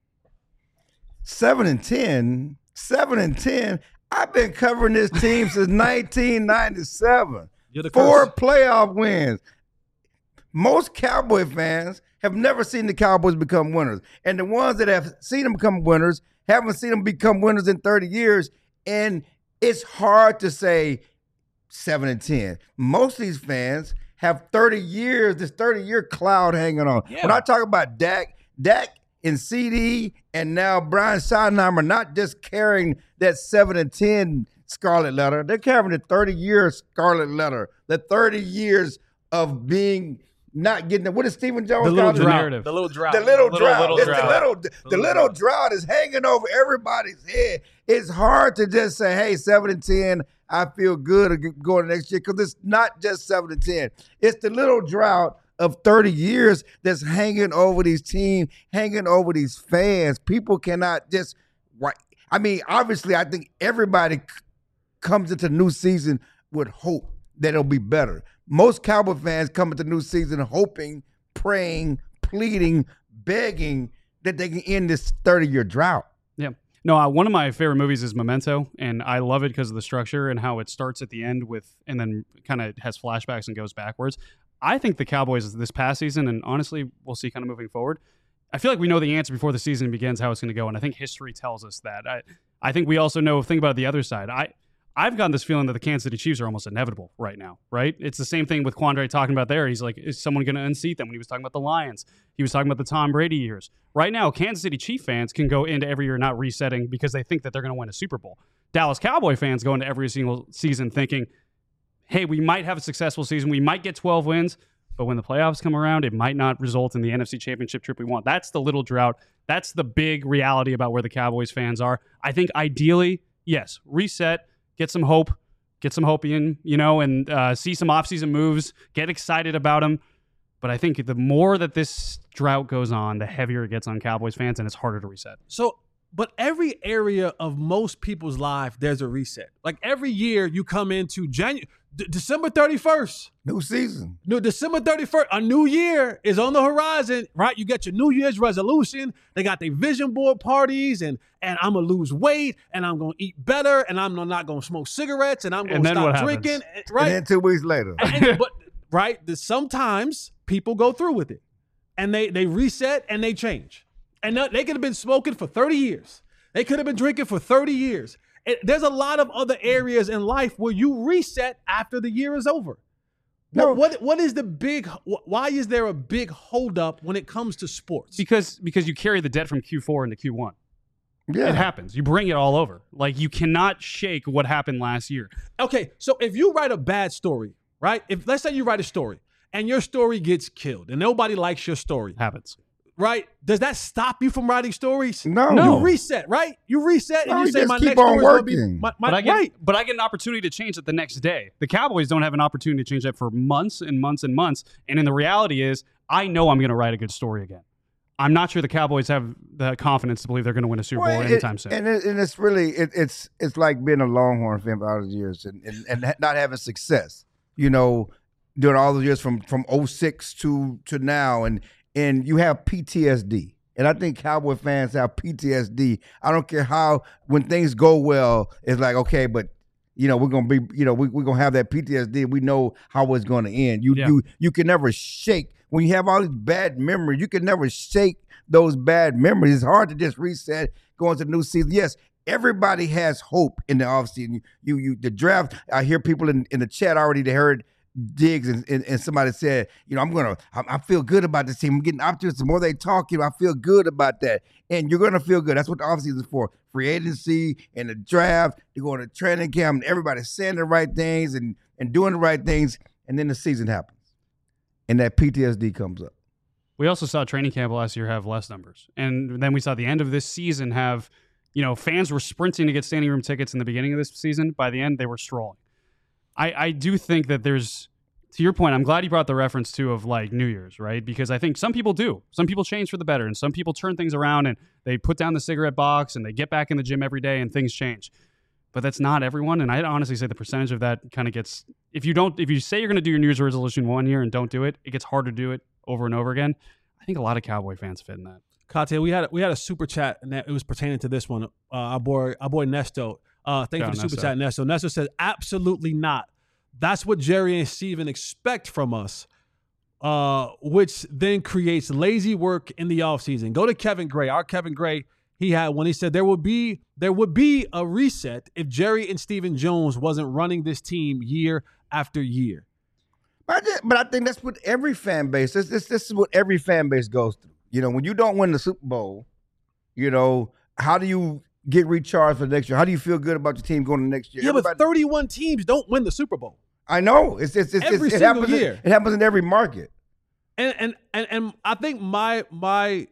Seven and ten, seven and ten. I've been covering this team since nineteen ninety-seven. You're the Four curse. playoff wins. Most Cowboy fans have never seen the Cowboys become winners. And the ones that have seen them become winners haven't seen them become winners in thirty years. And it's hard to say seven and ten. Most of these fans have thirty years, this thirty-year cloud hanging on. Yeah. When I talk about Dak, Dak and C D and now Brian Schottenheimer not just carrying that seven and ten scarlet letter, they're carrying the thirty-year scarlet letter, the thirty years of being not getting it. What is Stephen Jones The little called it? drought. narrative. The little drought. The little, little drought. Little It's drought. the little, the, little little drought. drought is hanging over everybody's head. It's hard to just say, hey, seven and ten, I feel good going next year, because it's not just seven and ten. It's the little drought of thirty years that's hanging over these teams, hanging over these fans. People cannot just, I mean, obviously, I think everybody c- comes into new season with hope that it'll be better. Most Cowboy fans come into new season hoping, praying, pleading, begging that they can end this thirty-year drought. Yeah. No, uh, one of my favorite movies is Memento, and I love it because of the structure and how it starts at the end with, and then kind of has flashbacks and goes backwards. I think the Cowboys this past season, and honestly, we'll see kind of moving forward, I feel like we know the answer before the season begins how it's going to go, and I think history tells us that. I, I think we also know, think about the other side. I, I've gotten this feeling that the Kansas City Chiefs are almost inevitable right now, right? It's the same thing with Quandre talking about there. He's like, is someone going to unseat them? When he was talking about the Lions, he was talking about the Tom Brady years. Right now, Kansas City Chief fans can go into every year not resetting because they think that they're going to win a Super Bowl. Dallas Cowboy fans go into every single season thinking, hey, we might have a successful season. We might get twelve wins. But when the playoffs come around, it might not result in the N F C Championship trip we want. That's the little drought. That's the big reality about where the Cowboys fans are. I think ideally, yes, reset, get some hope, get some hope in, you know, and uh, see some offseason moves, get excited about them. But I think the more that this drought goes on, the heavier it gets on Cowboys fans, and it's harder to reset. So, but every area of most people's life, there's a reset. Like every year you come into January, D- December thirty-first. New season. No, December thirty-first, a new year is on the horizon, right? You get your New Year's resolution. They got their vision board parties, and and I'm going to lose weight, and I'm going to eat better, and I'm not going to smoke cigarettes, and I'm going to stop drinking. Right? And then two weeks later. And, and, but, right? The, sometimes people go through with it, and they, they reset, and they change. And they could have been smoking for thirty years. They could have been drinking for thirty years. It, there's a lot of other areas in life where you reset after the year is over. No. What, what what is the big? Why is there a big holdup when it comes to sports? Because because you carry the debt from Q four into Q one. Yeah, it happens. You bring it all over. Like you cannot shake what happened last year. Okay, so if you write a bad story, right? If let's say you write a story and your story gets killed and nobody likes your story, happens. Right? Does that stop you from writing stories? No. You reset, right? You reset no, and you, you say my keep next on story is going to be my, my, but I get, right. But I get an opportunity to change it the next day. The Cowboys don't have an opportunity to change that for months and months and months. And then the reality is, I know I'm going to write a good story again. I'm not sure the Cowboys have the confidence to believe they're going to win a Super well, Bowl it, anytime soon. And, it, and it's really, it, it's it's like being a Longhorn fan for all those years and, and, and not having success, you know, during all those years from, from oh six to, to now. And, and you have P T S D. And I think Cowboy fans have P T S D. I don't care how, when things go well, it's like, okay, but, you know, we're going to be, you know, we, we're going to have that P T S D. We know how it's going to end. You, yeah. you, you can never shake. When you have all these bad memories, you can never shake those bad memories. It's hard to just reset, go into the new season. Yes, everybody has hope in the offseason. You, you, the draft, I hear people in, in the chat already, they heard Diggs and, and, and somebody said, you know, I'm going to, I, I feel good about this team. I'm getting optimistic. The more they talk, you know, I feel good about that. And you're going to feel good. That's what the offseason is for. Free agency and the draft, you're going to training camp and everybody's saying the right things and, and doing the right things. And then the season happens. And that P T S D comes up. We also saw training camp last year have less numbers. And then we saw the end of this season have, you know, fans were sprinting to get standing room tickets in the beginning of this season. By the end, they were strolling. I, I do think that there's, to your point, I'm glad you brought the reference to of like New Year's, right? Because I think some people do. Some people change for the better and some people turn things around and they put down the cigarette box and they get back in the gym every day and things change. But that's not everyone. And I'd honestly say the percentage of that kind of gets, if you don't, if you say you're going to do your New Year's resolution one year and don't do it, it gets harder to do it over and over again. I think a lot of Cowboy fans fit in that. Kate, we had we had a super chat and that it was pertaining to this one. Uh, our boy, our boy Nesto. Uh, thank you for the super chat, Nesto. Nesto says, absolutely not. That's what Jerry and Steven expect from us, uh, which then creates lazy work in the offseason. Go to Kevin Gray. Our Kevin Gray, he had when he said there would be there would be a reset if Jerry and Stephen Jones wasn't running this team year after year. But I, just, but I think that's what every fan base, this, this, this is what every fan base goes through. You know, when you don't win the Super Bowl, you know, how do you get recharged for the next year? How do you feel good about your team going to next year? Yeah, Everybody, but thirty-one teams don't win the Super Bowl. I know. It's, it's, it's, every it's, it single happens year. In, it happens in every market. And and and and I think my my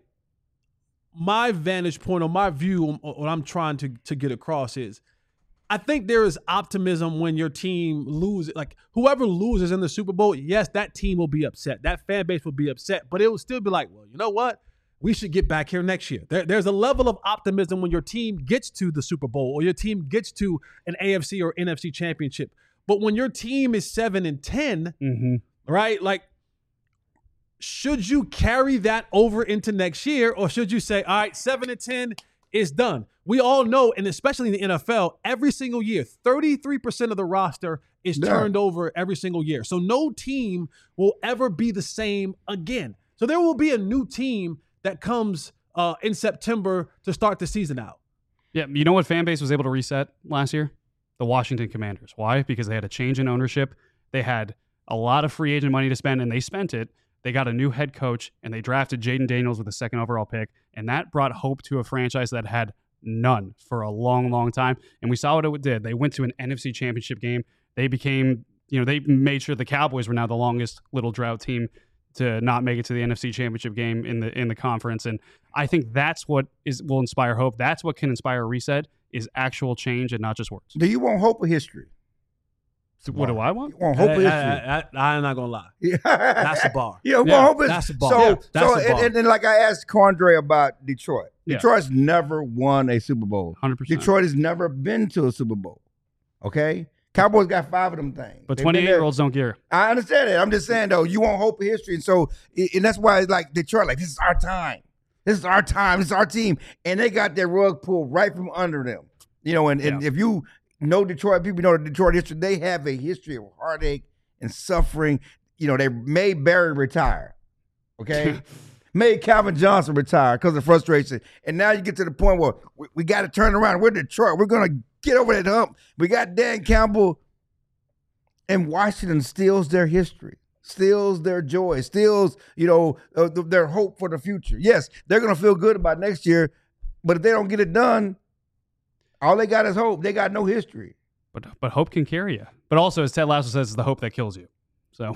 my vantage point or my view on what I'm trying to to get across is, I think there is optimism when your team loses. Like whoever loses in the Super Bowl, yes, that team will be upset. That fan base will be upset, but it will still be like, well, you know what? We should get back here next year. There, there's a level of optimism when your team gets to the Super Bowl or your team gets to an A F C or N F C championship. But when your team is seven and ten, mm-hmm. right? Like, should you carry that over into next year, or should you say, all right, seven and ten is done? We all know, and especially in the N F L, every single year, thirty-three percent of the roster is Yeah. turned over every single year. So no team will ever be the same again. So there will be a new team that comes uh, in September to start the season out. Yeah, you know what fan base was able to reset last year? The Washington Commanders. Why? Because they had a change in ownership. They had a lot of free agent money to spend, and they spent it. They got a new head coach, and they drafted Jaden Daniels with the second overall pick, and that brought hope to a franchise that had none for a long, long time. And we saw what it did. They went to an N F C Championship game. They became, you know, they made sure the Cowboys were now the longest little drought team to not make it to the N F C Championship game in the in the conference. And I think that's what is will inspire hope. That's what can inspire a reset, is actual change and not just words. Do you want hope or history? So what do I want? You want hope or history? I, I, I, I'm not going to lie. That's the bar. Yeah, well, Yeah, hope is, that's the bar. So, Yeah, that's so the and, bar. and, and like I asked Condre about Detroit. Yeah. Detroit's never won a Super Bowl. one hundred percent. Detroit has never been to a Super Bowl. Okay? Cowboys got five of them things. But They've been there. twenty-eight-year-olds don't care. I understand it. I'm just saying, though, you want hope and history. And so, and that's why it's like Detroit, like, this is our time. This is our time. This is our team. And they got their rug pulled right from under them. You know, and, and Yeah. if you know Detroit, people know the Detroit history, they have a history of heartache and suffering. You know, they made Barry retire. Okay? Made Calvin Johnson retire because of frustration. And now you get to the point where we, we got to turn around. We're Detroit. We're going to get over that hump. We got Dan Campbell, and Washington steals their history, steals their joy, steals, you know, uh, th- their hope for the future. Yes, they're going to feel good about next year, but if they don't get it done, all they got is hope. They got no history. But but hope can carry you. But also, as Ted Lasso says, it's the hope that kills you. So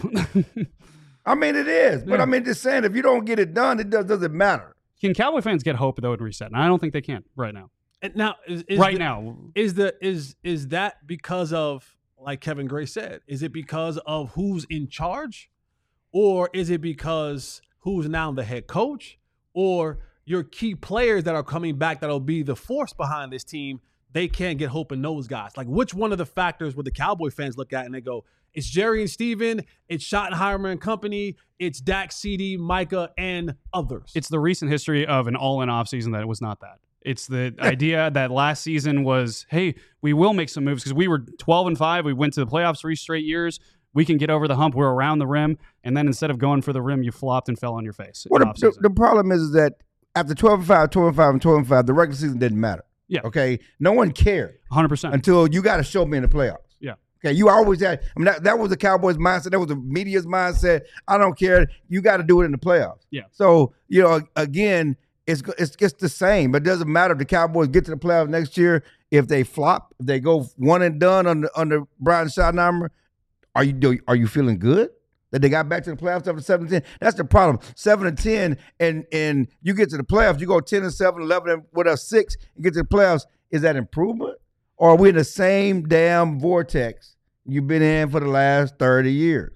I mean, it is. But Yeah. I mean, just saying, if you don't get it done, it does, doesn't matter. can Cowboy fans get hope though in reset? And I don't think they can right now. And now, is, is right the- now. is the is is that because of, like Kevin Gray said, is it because of who's in charge, or is it because who's now the head coach, or your key players that are coming back that'll be the force behind this team? They can't get hope in those guys. Like, which one of the factors would the Cowboy fans look at and they go, it's Jerry and Steven, it's Schottenheimer and company, it's Dak, C D, Micah, and others. It's the recent history of an all-in offseason that it was not that. It's the idea that last season was, hey, we will make some moves because we were twelve and five. We went to the playoffs three straight years. We can get over the hump. We're around the rim. And then instead of going for the rim, you flopped and fell on your face. Well, in the, the, offseason. the problem is, is that after twelve and five, twelve and five, and twelve and five, the regular season didn't matter. Yeah. Okay? No one cared one hundred percent. until you got to show me in the playoffs. Yeah. Okay, you always had, I mean, that, that was the Cowboys' mindset. That was the media's mindset. I don't care. You got to do it in the playoffs. Yeah. So, you know, again, it's it's just the same. It doesn't matter if the Cowboys get to the playoffs next year. If they flop, if they go one and done under under Brian Schottenheimer, are you do, are you feeling good that they got back to the playoffs after seven and ten? That's the problem. seven and ten, and and you get to the playoffs, you go ten and seven, eleven and what else, six, and get to the playoffs. Is that improvement? Or are we in the same damn vortex you've been in for the last thirty years?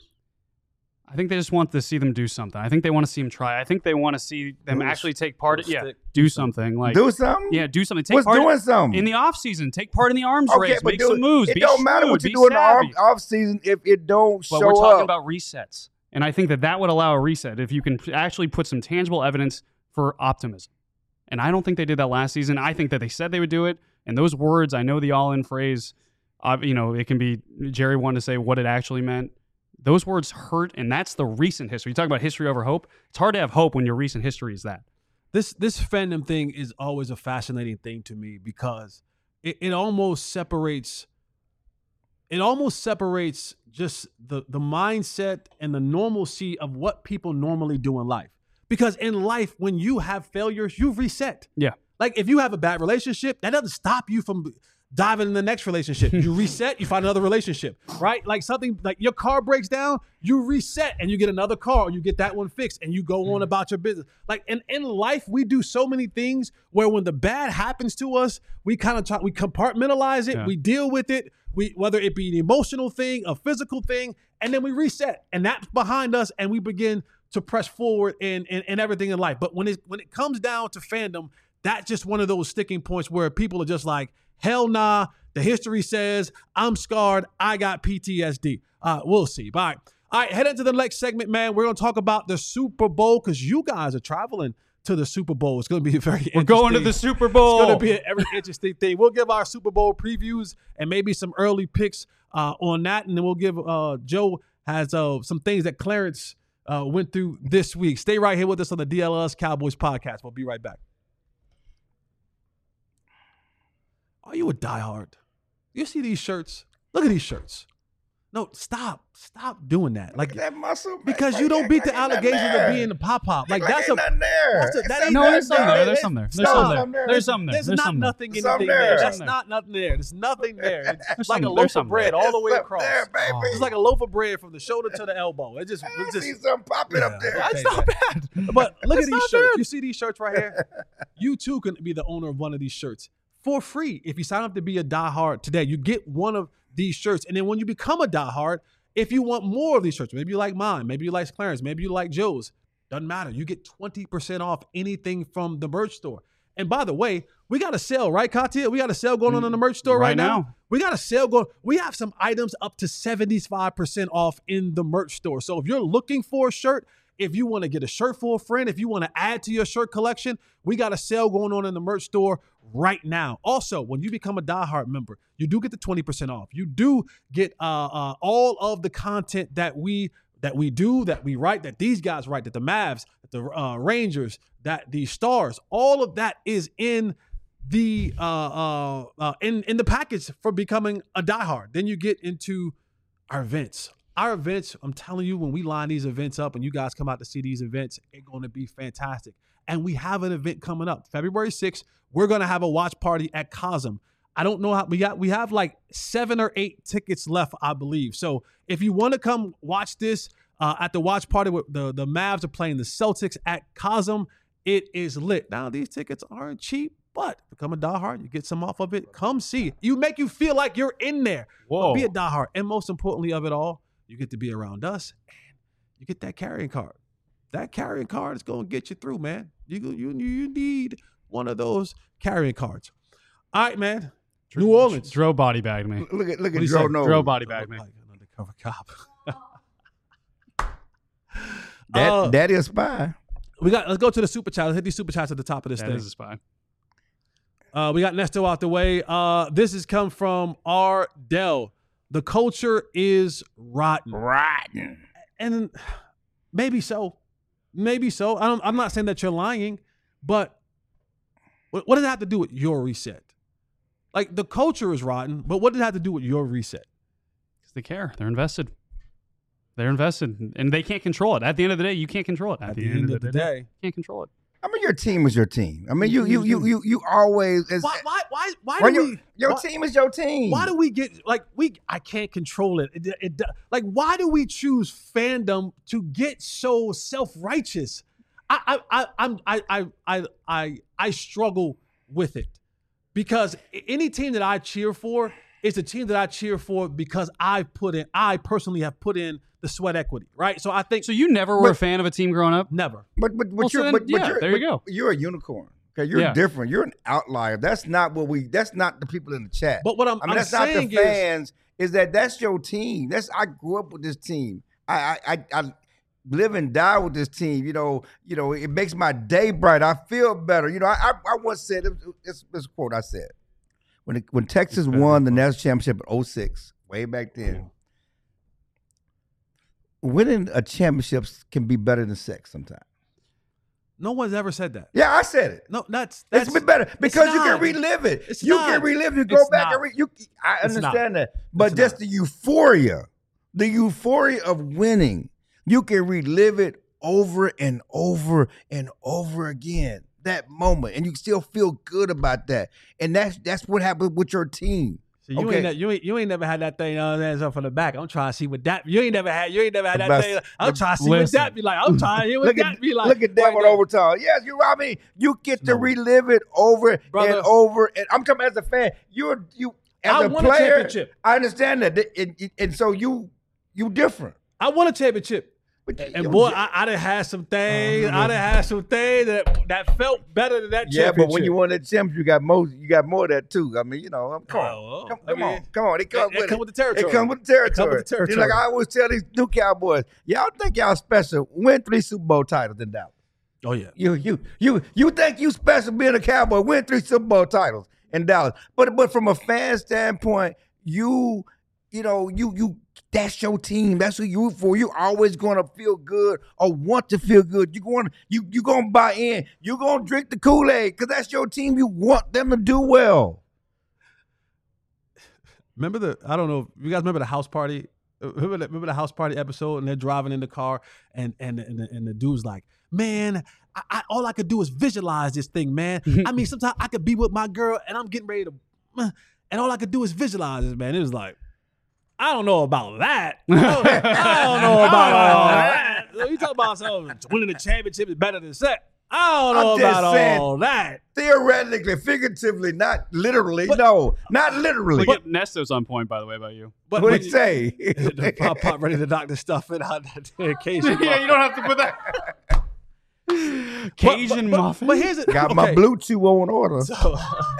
I think they just want to see them do something. I think they want to see them try. I think they want to see them Little- actually take part. little Yeah, stick. do something. Like Do something? Yeah, do something. Take What's part doing something? in the offseason. Take part in the arms Okay, race. but Make do- some moves. It be don't matter what shrewd, you do be in the off, savvy. off season if it don't But show we're talking up. about resets. And I think that that would allow a reset if you can actually put some tangible evidence for optimism. And I don't think they did that last season. I think that they said they would do it. And those words, I know the all-in phrase, uh, you know, it can be Jerry wanted to say what it actually meant. Those words hurt, and that's the recent history. You talk about history over hope. It's hard to have hope when your recent history is that. This this fandom thing is always a fascinating thing to me because it, it almost separates it almost separates just the the mindset and the normalcy of what people normally do in life. Because in life, when you have failures, you reset. Yeah. Like if you have a bad relationship, that doesn't stop you from diving in the next relationship. You reset, you find another relationship, right? Like something like your car breaks down, you reset and you get another car, or you get that one fixed and you go on about your business. Like in, in life, we do so many things where when the bad happens to us, we kind of talk, we compartmentalize it, Yeah. we deal with it, we whether it be an emotional thing, a physical thing, and then we reset. And that's behind us and we begin to press forward in, in, in everything in life. But when it when it comes down to fandom, that's just one of those sticking points where people are just like, hell nah, the history says I'm scarred, I got P T S D. Uh, we'll see. All right. All right, head into the next segment, man. We're going to talk about the Super Bowl because you guys are traveling to the Super Bowl. It's going to be very We're going to the interesting. Super Bowl. It's going to be a very interesting thing. We'll give our Super Bowl previews and maybe some early picks uh, on that, and then we'll give uh, Joe has uh, some things that Clarence uh, went through this week. Stay right here with us on the D L L S Cowboys podcast. We'll be right back. Are you a diehard? You see these shirts? Look at these shirts. No, stop. Stop doing that. Like Look at that muscle. because man. you don't Like, beat the like, ain't nothing allegations there. of being the pop-pop. Like, Like, that's ain't a nothing there. that's a- that It's ain't No, nothing there's some there. There's some there. There's some Stop. there. There's some there. There's, There's not some there. nothing There's some anything there. there. There's That's some not nothing there. There's nothing there. It's There's like some- a there's loaf some of bread there. all the way It's up across. there, baby. It's like a loaf of bread from the shoulder to the elbow. It just, I it see just. something popping up there. Okay, That's not man. bad. But look at That's these not shirts. bad. You see these shirts right here? You too can be the owner of one of these shirts for free if you sign up to be a diehard today. You get one of these shirts, and then when you become a diehard, if you want more of these shirts, maybe you like mine, maybe you like Clarence, maybe you like Joe's, doesn't matter. You get twenty percent off anything from the merch store. And by the way, we got a sale, right, Katia? We got a sale going on in the merch store right, Right now. now. We got a sale going. We have some items up to seventy-five percent off in the merch store. So if you're looking for a shirt, if you want to get a shirt for a friend, if you want to add to your shirt collection, we got a sale going on in the merch store right now. Also, when you become a diehard member, you do get the twenty percent off. You do get uh, uh, all of the content that we that we do, that we write, that these guys write, that the Mavs, that the uh, Rangers, that the Stars, all of that is in the uh, uh, uh, in in the package for becoming a diehard. Then you get into our events. Our events, I'm telling you, when we line these events up and you guys come out to see these events, it's going to be fantastic. And we have an event coming up, February sixth. We're going to have a watch party at Cosm. I don't know how we got. We have like seven or eight tickets left, I believe. So if you want to come watch this uh, at the watch party, with the the Mavs are playing the Celtics at Cosm. It is lit. Now these tickets aren't cheap, but become a diehard. You get some off of it. Come see. You make you feel like you're in there. Whoa. Be a diehard, and most importantly of it all, you get to be around us, and you get that carrying card. That carrying card is going to get you through, man. You you you need one of those carrying cards. All right, man. New Orleans. Dro body bagged me. Look at look What at he Joe say? Nose. Dro body bagged me. Like an undercover cop. That Uh, Daddy a spy. we got. Let's go to the super chat. Let's hit these super chats at the top of this That thing. is a spy. Uh, we got Nesto out the way. Uh, this has come from R. Dell. The culture is rotten. Rotten. And maybe so. Maybe so. I don't, I'm not saying that you're lying, but what, what does it have to do with your reset? Like, the culture is rotten, but what does it have to do with your reset? Because they care. They're invested. They're invested, and they can't control it. At the end of the day, you can't control it. At the end of the day. you can't control it. I mean, your team is your team. I mean, you you you you you always. As, Why, why, why, why when do your we... your why- team is your team. Why do we get like we? I can't control it. It, it. Like, why do we choose fandom to get so self-righteous? I, I, I, I'm, I, I, I, I, I struggle with it because any team that I cheer for is a team that I cheer for because I've put in, I personally have put in the sweat equity, right? So I think So you never were But- a fan of a team growing up? never. But but but Well, so you're then, but, but yeah, you're, there you but go. You're a unicorn. Okay, you're Yeah. different. You're an outlier. That's not what we. That's not the people in the chat. But what I'm, I mean, I'm that's not the saying is, fans. Is that that's your team? That's I grew up with this team. I I I, I live and die with this team. You know. You know. It makes my day bright. I feel better. You know. I I, I once said this, this quote I said when it, when Texas won the national championship in oh six, way back then. Winning a championship can be better than sex sometimes. no one's ever said that. Yeah, I said it. No, that's that's It's been better because you can not. relive it. It's you not. can relive. You go It's back not. and re, you. I It's not. understand that, but It's just not. the euphoria, the euphoria of winning, you can relive it over and over and over again. That moment, and you still feel good about that. And that's that's what happened with your team. So you Okay. ain't ne- you ain't you ain't never had that thing on hands up from the back. I'm trying to see what that you ain't never had. You ain't never had The that best- thing. I'm the- trying to see listen. what that be like. I'm trying to hear what Look that at be like. look at that right one there. overtime. Yes, you. I mean, you get to No. relive it over Brother. and over. And I'm talking as a fan. You're you as I a won a player. championship. I understand that, and, and- and so you you different. I won a championship. But And you- boy, I, I done had some things. I done had some things that that felt better than that yeah, championship. but when you won that championship, you got more. You got more of that too. I mean, you know, I'm come Oh, well, on, come, I come mean, on, come on. It comes it with come it. with the territory. It comes with the territory. It come with the It's territory. like I always tell these new Cowboys, y'all think y'all special. Win three Super Bowl titles in Dallas. Oh yeah. You you you you think you special being a Cowboy? Win three Super Bowl titles in Dallas. But but from a fan standpoint, you you know you you That's your team. That's who you root for. You're always going to feel good or want to feel good. You're going to you you going to buy in. You're going to drink the Kool-Aid because that's your team. You want them to do well. Remember the, I don't know, you guys remember the house party? Remember the, remember the house party episode and they're driving in the car and and and the, and the dude's like, man, I, I, all I could do is visualize this thing, man. I mean, sometimes I could be with my girl and I'm getting ready to, and all I could do is visualize this, man. It was like, I don't know about that. I don't, I don't know about all that. You talk about something, winning the championship is better than set. I don't know I'm just about saying, all that. Theoretically, figuratively, not literally. But, no, not literally. Look at Nesto's on point, by the way, about you. But what did he say? The pop pop ready to knock the stuff in on that occasion. Yeah, you don't have to put that. Cajun but, but, muffin. But here's it. Got okay. my Bluetooth on order. So,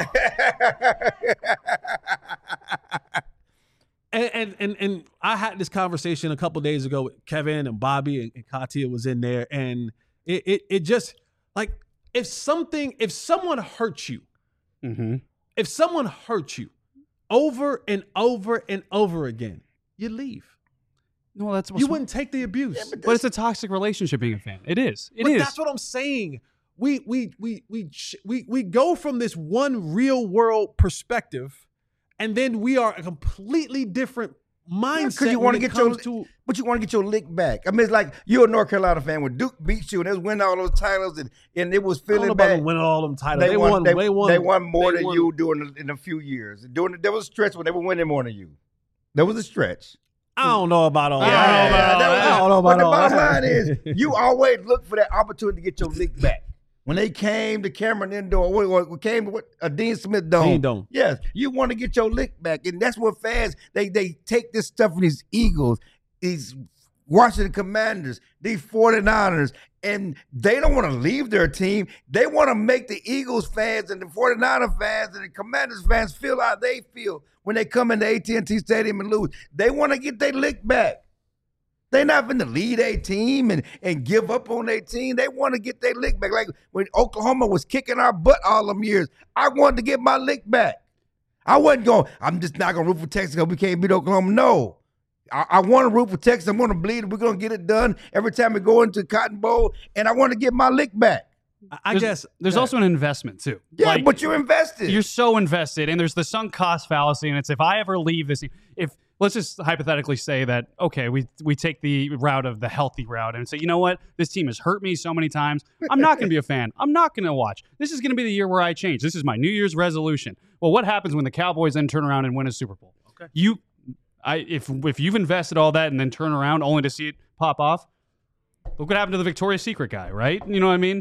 and, and and and I had this conversation a couple days ago with Kevin and Bobby and, and Katia was in there, and it it, it just like if something if someone hurts you, mm-hmm. if someone hurts you over and over and over again, you leave. No, that's you wouldn't take the abuse. Yeah, but, but it's a toxic relationship being a fan. It is. It but is. That's what I'm saying. We we we we we we go from this one real world perspective, and then we are a completely different mindset. Because you want to get your, to, but you want to get your lick back. I mean, it's like you're a North Carolina fan when Duke beat you and they was winning all those titles and, and it was I don't know feeling about bad. them winning all them titles. They, They, won, won. they, They won. they won more they than won. you during the, in a few years. During the, there was a stretch when they were winning more than you. There was a stretch. I don't know about all Yeah, that. yeah, yeah, that was- I don't know but about the all bottom that. line is you always look for that opportunity to get your lick back. When they came to Cameron Indoor, what, what, what came to what, a Dean Smith Dome. Dean Dome. Yes, you want to get your lick back. And that's what fans, they they take this stuff from these Eagles, these Washington Commanders, these forty-niners, and they don't want to leave their team. They want to make the Eagles fans and the forty-niner fans and the Commanders fans feel how they feel when they come into A T and T Stadium and lose. They want to get their lick back. They're not going to lead a team and, and give up on their team. They want to get their lick back. Like when Oklahoma was kicking our butt all them years, I wanted to get my lick back. I wasn't going, I'm just not going to root for Texas because we can't beat Oklahoma. No. I, I want to root for Texas. I'm going to bleed. We're going to get it done every time we go into Cotton Bowl, and I want to get my lick back. I, I there's, guess there's yeah. also an investment too. Yeah, Like, but you're invested. You're so invested, and there's the sunk cost fallacy, and it's if I ever leave this, if let's just hypothetically say that okay, we we take the route of the healthy route and say, you know what, this team has hurt me so many times. I'm not going to be a fan. I'm not going to watch. This is going to be the year where I change. This is my New Year's resolution. Well, what happens when the Cowboys then turn around and win a Super Bowl? Okay, you, I if if you've invested all that and then turn around only to see it pop off, look what happened to the Victoria's Secret guy, right? You know what I mean?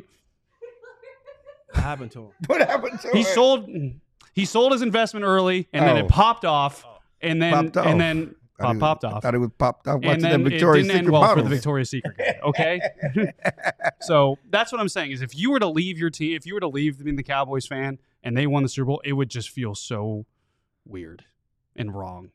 What happened to him? What happened to He him? sold he sold his investment early, and then Oh. it popped off, and then Popped off. and then I pop, didn't- popped I off, thought it was popped off. and Watching then the Victoria's it didn't Secret end well bottles. for the Victoria's Secret guy. Okay, so that's what I'm saying is if you were to leave your team, if you were to leave being the Cowboys fan, and they won the Super Bowl, it would just feel so weird and wrong.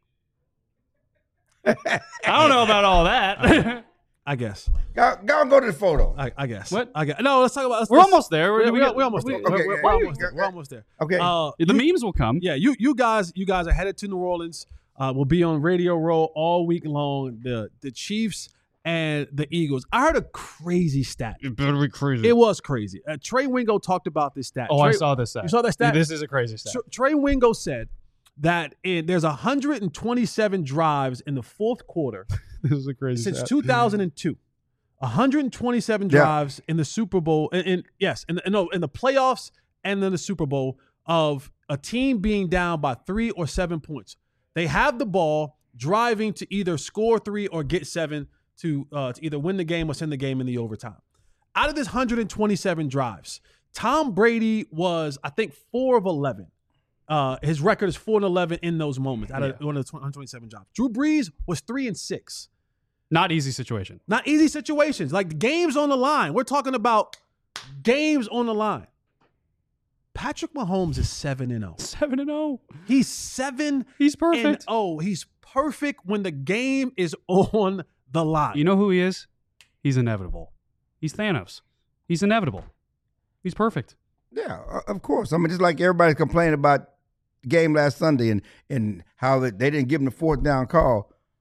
I don't know about all that. I guess. Go, go and go to the photo. I, I guess. What? I guess. No, let's talk about. Let's, We're let's- almost there. We're, We're, we we're, got- we're almost there. Okay, We're, we're, yeah, we're yeah, almost there. yeah. We're almost there. Okay. Uh, the you- memes will come. Yeah, you you guys you guys are headed to New Orleans. Uh, we'll be on Radio Row all week long. The the Chiefs and the Eagles. I heard a crazy stat. It better be crazy. It was crazy. Uh, Trey Wingo talked about this stat. oh, Trey, I saw this stat. You saw that stat? This is a crazy stat. Tr- Trey Wingo said that in, there's one hundred twenty-seven drives in the fourth quarter This is a crazy since stat. two thousand two. one hundred twenty-seven Yeah. drives in the Super Bowl, in, in yes, in the, no, in the playoffs and then the Super Bowl of a team being down by three or seven points. They have the ball, driving to either score three or get seven to, uh, to either win the game or send the game in the overtime. Out of this one hundred twenty-seven drives, Tom Brady was, I think, four of eleven. Uh, his record is four and eleven in those moments out of one of the one hundred twenty-seven drives. Drew Brees was three and six. Not easy situation. Not easy situations. Like games on the line. We're talking about games on the line. Patrick Mahomes is seven and oh. Seven and zero. He's seven He's and perfect. oh. He's perfect when the game is on the line. You know who he is? He's inevitable. He's Thanos. He's inevitable. He's perfect. Yeah, uh, of course. I mean, just like everybody's complaining about the game last Sunday and and how that they didn't give him the fourth down call.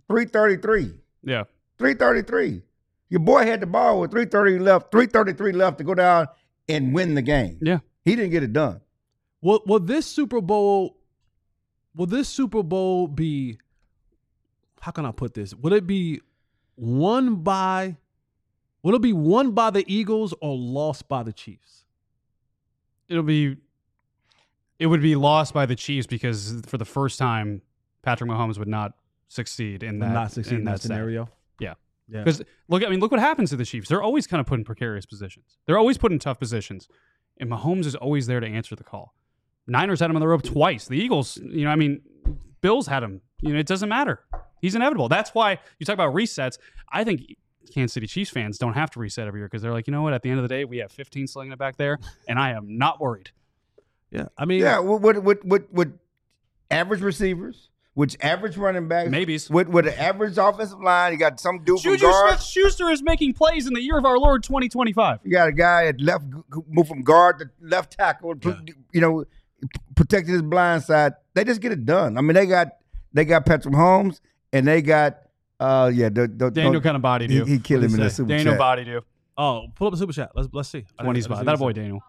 three thirty-three. Yeah. three thirty-three. Your boy had the ball with three thirty left, three thirty-three left to go down and win the game. Yeah. He didn't get it done. Will, will this Super Bowl, will this Super Bowl be, how can I put this? Would it be won by, will it be won by the Eagles or lost by the Chiefs? It'll be, it would be lost by the Chiefs because for the first time, Patrick Mahomes would not succeed in that, Not succeed in that set. scenario. Yeah. Yeah. Because look, I mean, look what happens to the Chiefs. They're always kind of put in precarious positions. They're always put in tough positions. And Mahomes is always there to answer the call. Niners had him on the rope twice. The Eagles, you know, I mean, Bills had him. You know, it doesn't matter. He's inevitable. That's why you talk about resets. I think Kansas City Chiefs fans don't have to reset every year because they're like, you know what? At the end of the day, we have fifteen slinging it back there, and I am not worried. Yeah. I mean, Yeah, with with with, with average receivers, with average running backs, Maybes. with with an average offensive line. You got some dude from Juju guard. Smith-Schuster is making plays in the year of our Lord twenty twenty-five. You got a guy at left move from guard to left tackle. Yeah. You know, protecting his blind side. They just get it done. I mean, they got they got Patrick Mahomes and they got uh yeah the, the Daniel kind of bodied he, you. he killed What'd him he in the say? super Daniel chat. bodied you. oh, pull up a super chat. Let's let's see. I twenty didn't- I spot. didn't That see boy, what he Daniel. said.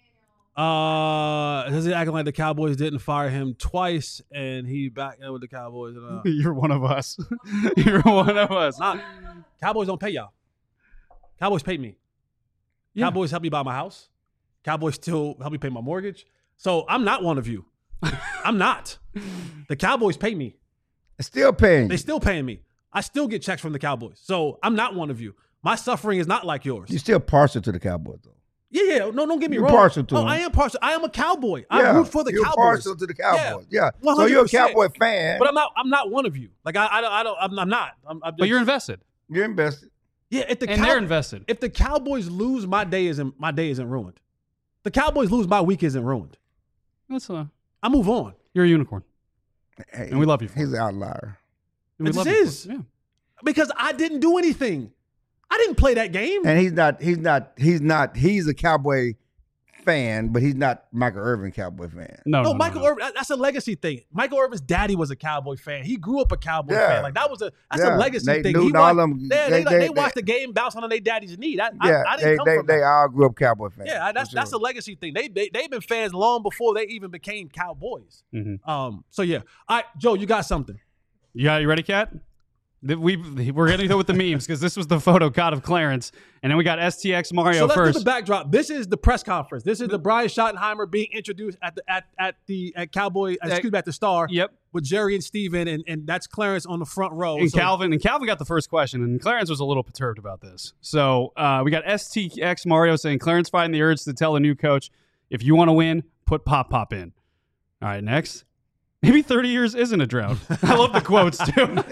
Uh, is he acting like the Cowboys didn't fire him twice and he back in with the Cowboys? And, uh, You're one of us. You're one of us. not Cowboys don't pay y'all. Cowboys pay me. Yeah. Cowboys help me buy my house. Cowboys still help me pay my mortgage. So I'm not one of you. I'm not. The Cowboys pay me. Still paying. They still paying me. I still get checks from the Cowboys. So I'm not one of you. My suffering is not like yours. You're still partial to the Cowboys though. Yeah, yeah. No, don't get me You're wrong. partial to oh, them. I am partial. I am a Cowboy. Yeah, I root for the you're Cowboys. partial to the Cowboys. Yeah. So one you're hundred a percent. Cowboy fan. But I'm not. I'm not one of you. Like I, I don't. I don't. I'm, I'm not. I'm, I'm But just- you're invested. You're invested. Yeah. If the And Cow- they're invested. if the Cowboys lose, my day isn't. My day isn't ruined. The Cowboys lose, my week isn't ruined. That's a, I move on. you're a unicorn. Hey, And we love you for He's an outlier. And we It love just you for is. it. Yeah. Because I didn't do anything. I didn't play that game. And he's not. He's not. He's not. He's a Cowboy fan, but he's not Michael Irvin Cowboy fan. No, no, no, Michael no, no. Irvin. that- That's a legacy thing. Michael Irvin's daddy was a Cowboy fan. He grew up a Cowboy Yeah. fan. Like that was a. That's Yeah. a legacy Nate thing. Newton, he all watched, them- they, they- they, like, they- they watched the game bounce on their daddy's knee. That, Yeah, I, I didn't they come they from they that. all grew up Cowboy fans. Yeah, that's for that's a sure. legacy thing. They they they've been fans long before they even became Cowboys. Mhm. Um. So yeah. All right, Joe, you got something. You got you ready, Cat? The- We we're gonna go with the memes because this was the photo caught of Clarence, and then we got S T X Mario So let's first. do the backdrop. This is the press conference. This is the Brian Schottenheimer being introduced at the at at the at Cowboy. Excuse me, at the Star. Yep. With Jerry and Steven, and and that's Clarence on the front row. And So- Calvin and Calvin got the first question, and Clarence was a little perturbed about this. So uh, we got S T X Mario saying Clarence fighting the urge to tell the new coach, if you want to win, put Pop Pop in. All right, next. Maybe thirty years isn't a drought. I love the quotes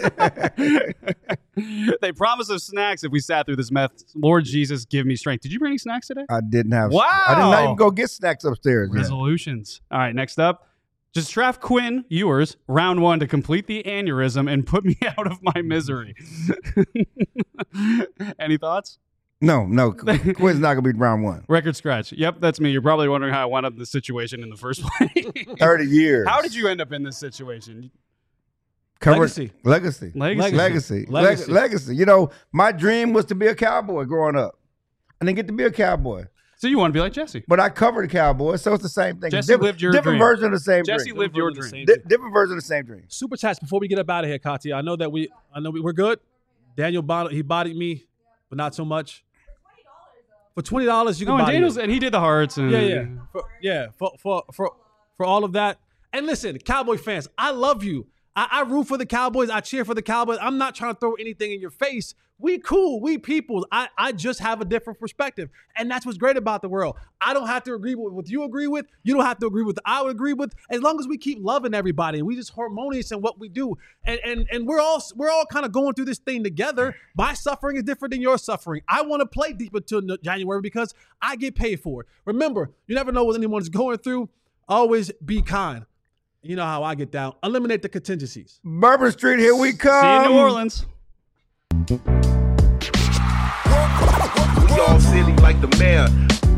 too. They promise us snacks if we sat through this meth. Lord Jesus, give me strength. Did you bring any snacks today? I didn't have. Wow. I did not even go get snacks upstairs. yet. Resolutions. All right, next up. Just draft Quinn Ewers, round one, to complete the aneurysm and put me out of my misery. Any thoughts? No, no. Quinn's not gonna be round one. Record scratch. Yep, that's me. You're probably wondering how I wound up in this situation in the first place. Thirty years. How did you end up in this situation? Cover- Legacy. Legacy. Legacy. Legacy. Legacy. Legacy. Legacy. You know, my dream was to be a cowboy growing up. I didn't get to be a cowboy, So you want to be like Jesse? but I covered the Cowboys, so it's the same thing. Jesse different, lived your different dream. version of the same Jesse dream. lived your Different dream. version of Di- different version of the same dream. Super chats before we get up out of here, Katia. I know that we, I know we, we're good. Daniel, bod- he bodied me, but not so much. For twenty dollars, you No, can and body Daniel's me. and he did the hearts and Yeah, yeah, for, yeah. For for for for all of that. And listen, Cowboy fans, I love you. I, I root for the Cowboys. I cheer for the Cowboys. I'm not trying to throw anything in your face. We cool. We people. I, I just have a different perspective. And that's what's great about the world. I don't have to agree with what you agree with. You don't have to agree with what I would agree with. As long as we keep loving everybody and we just harmonious in what we do. And and and we're all we're all kind of going through this thing together. My suffering is different than your suffering. I want to play deep until no- January because I get paid for it. Remember, you never know what anyone's going through. Always be kind. You know how I get down. Eliminate the contingencies. Bourbon Street, here we come. See you in New Orleans. We all silly like the mayor.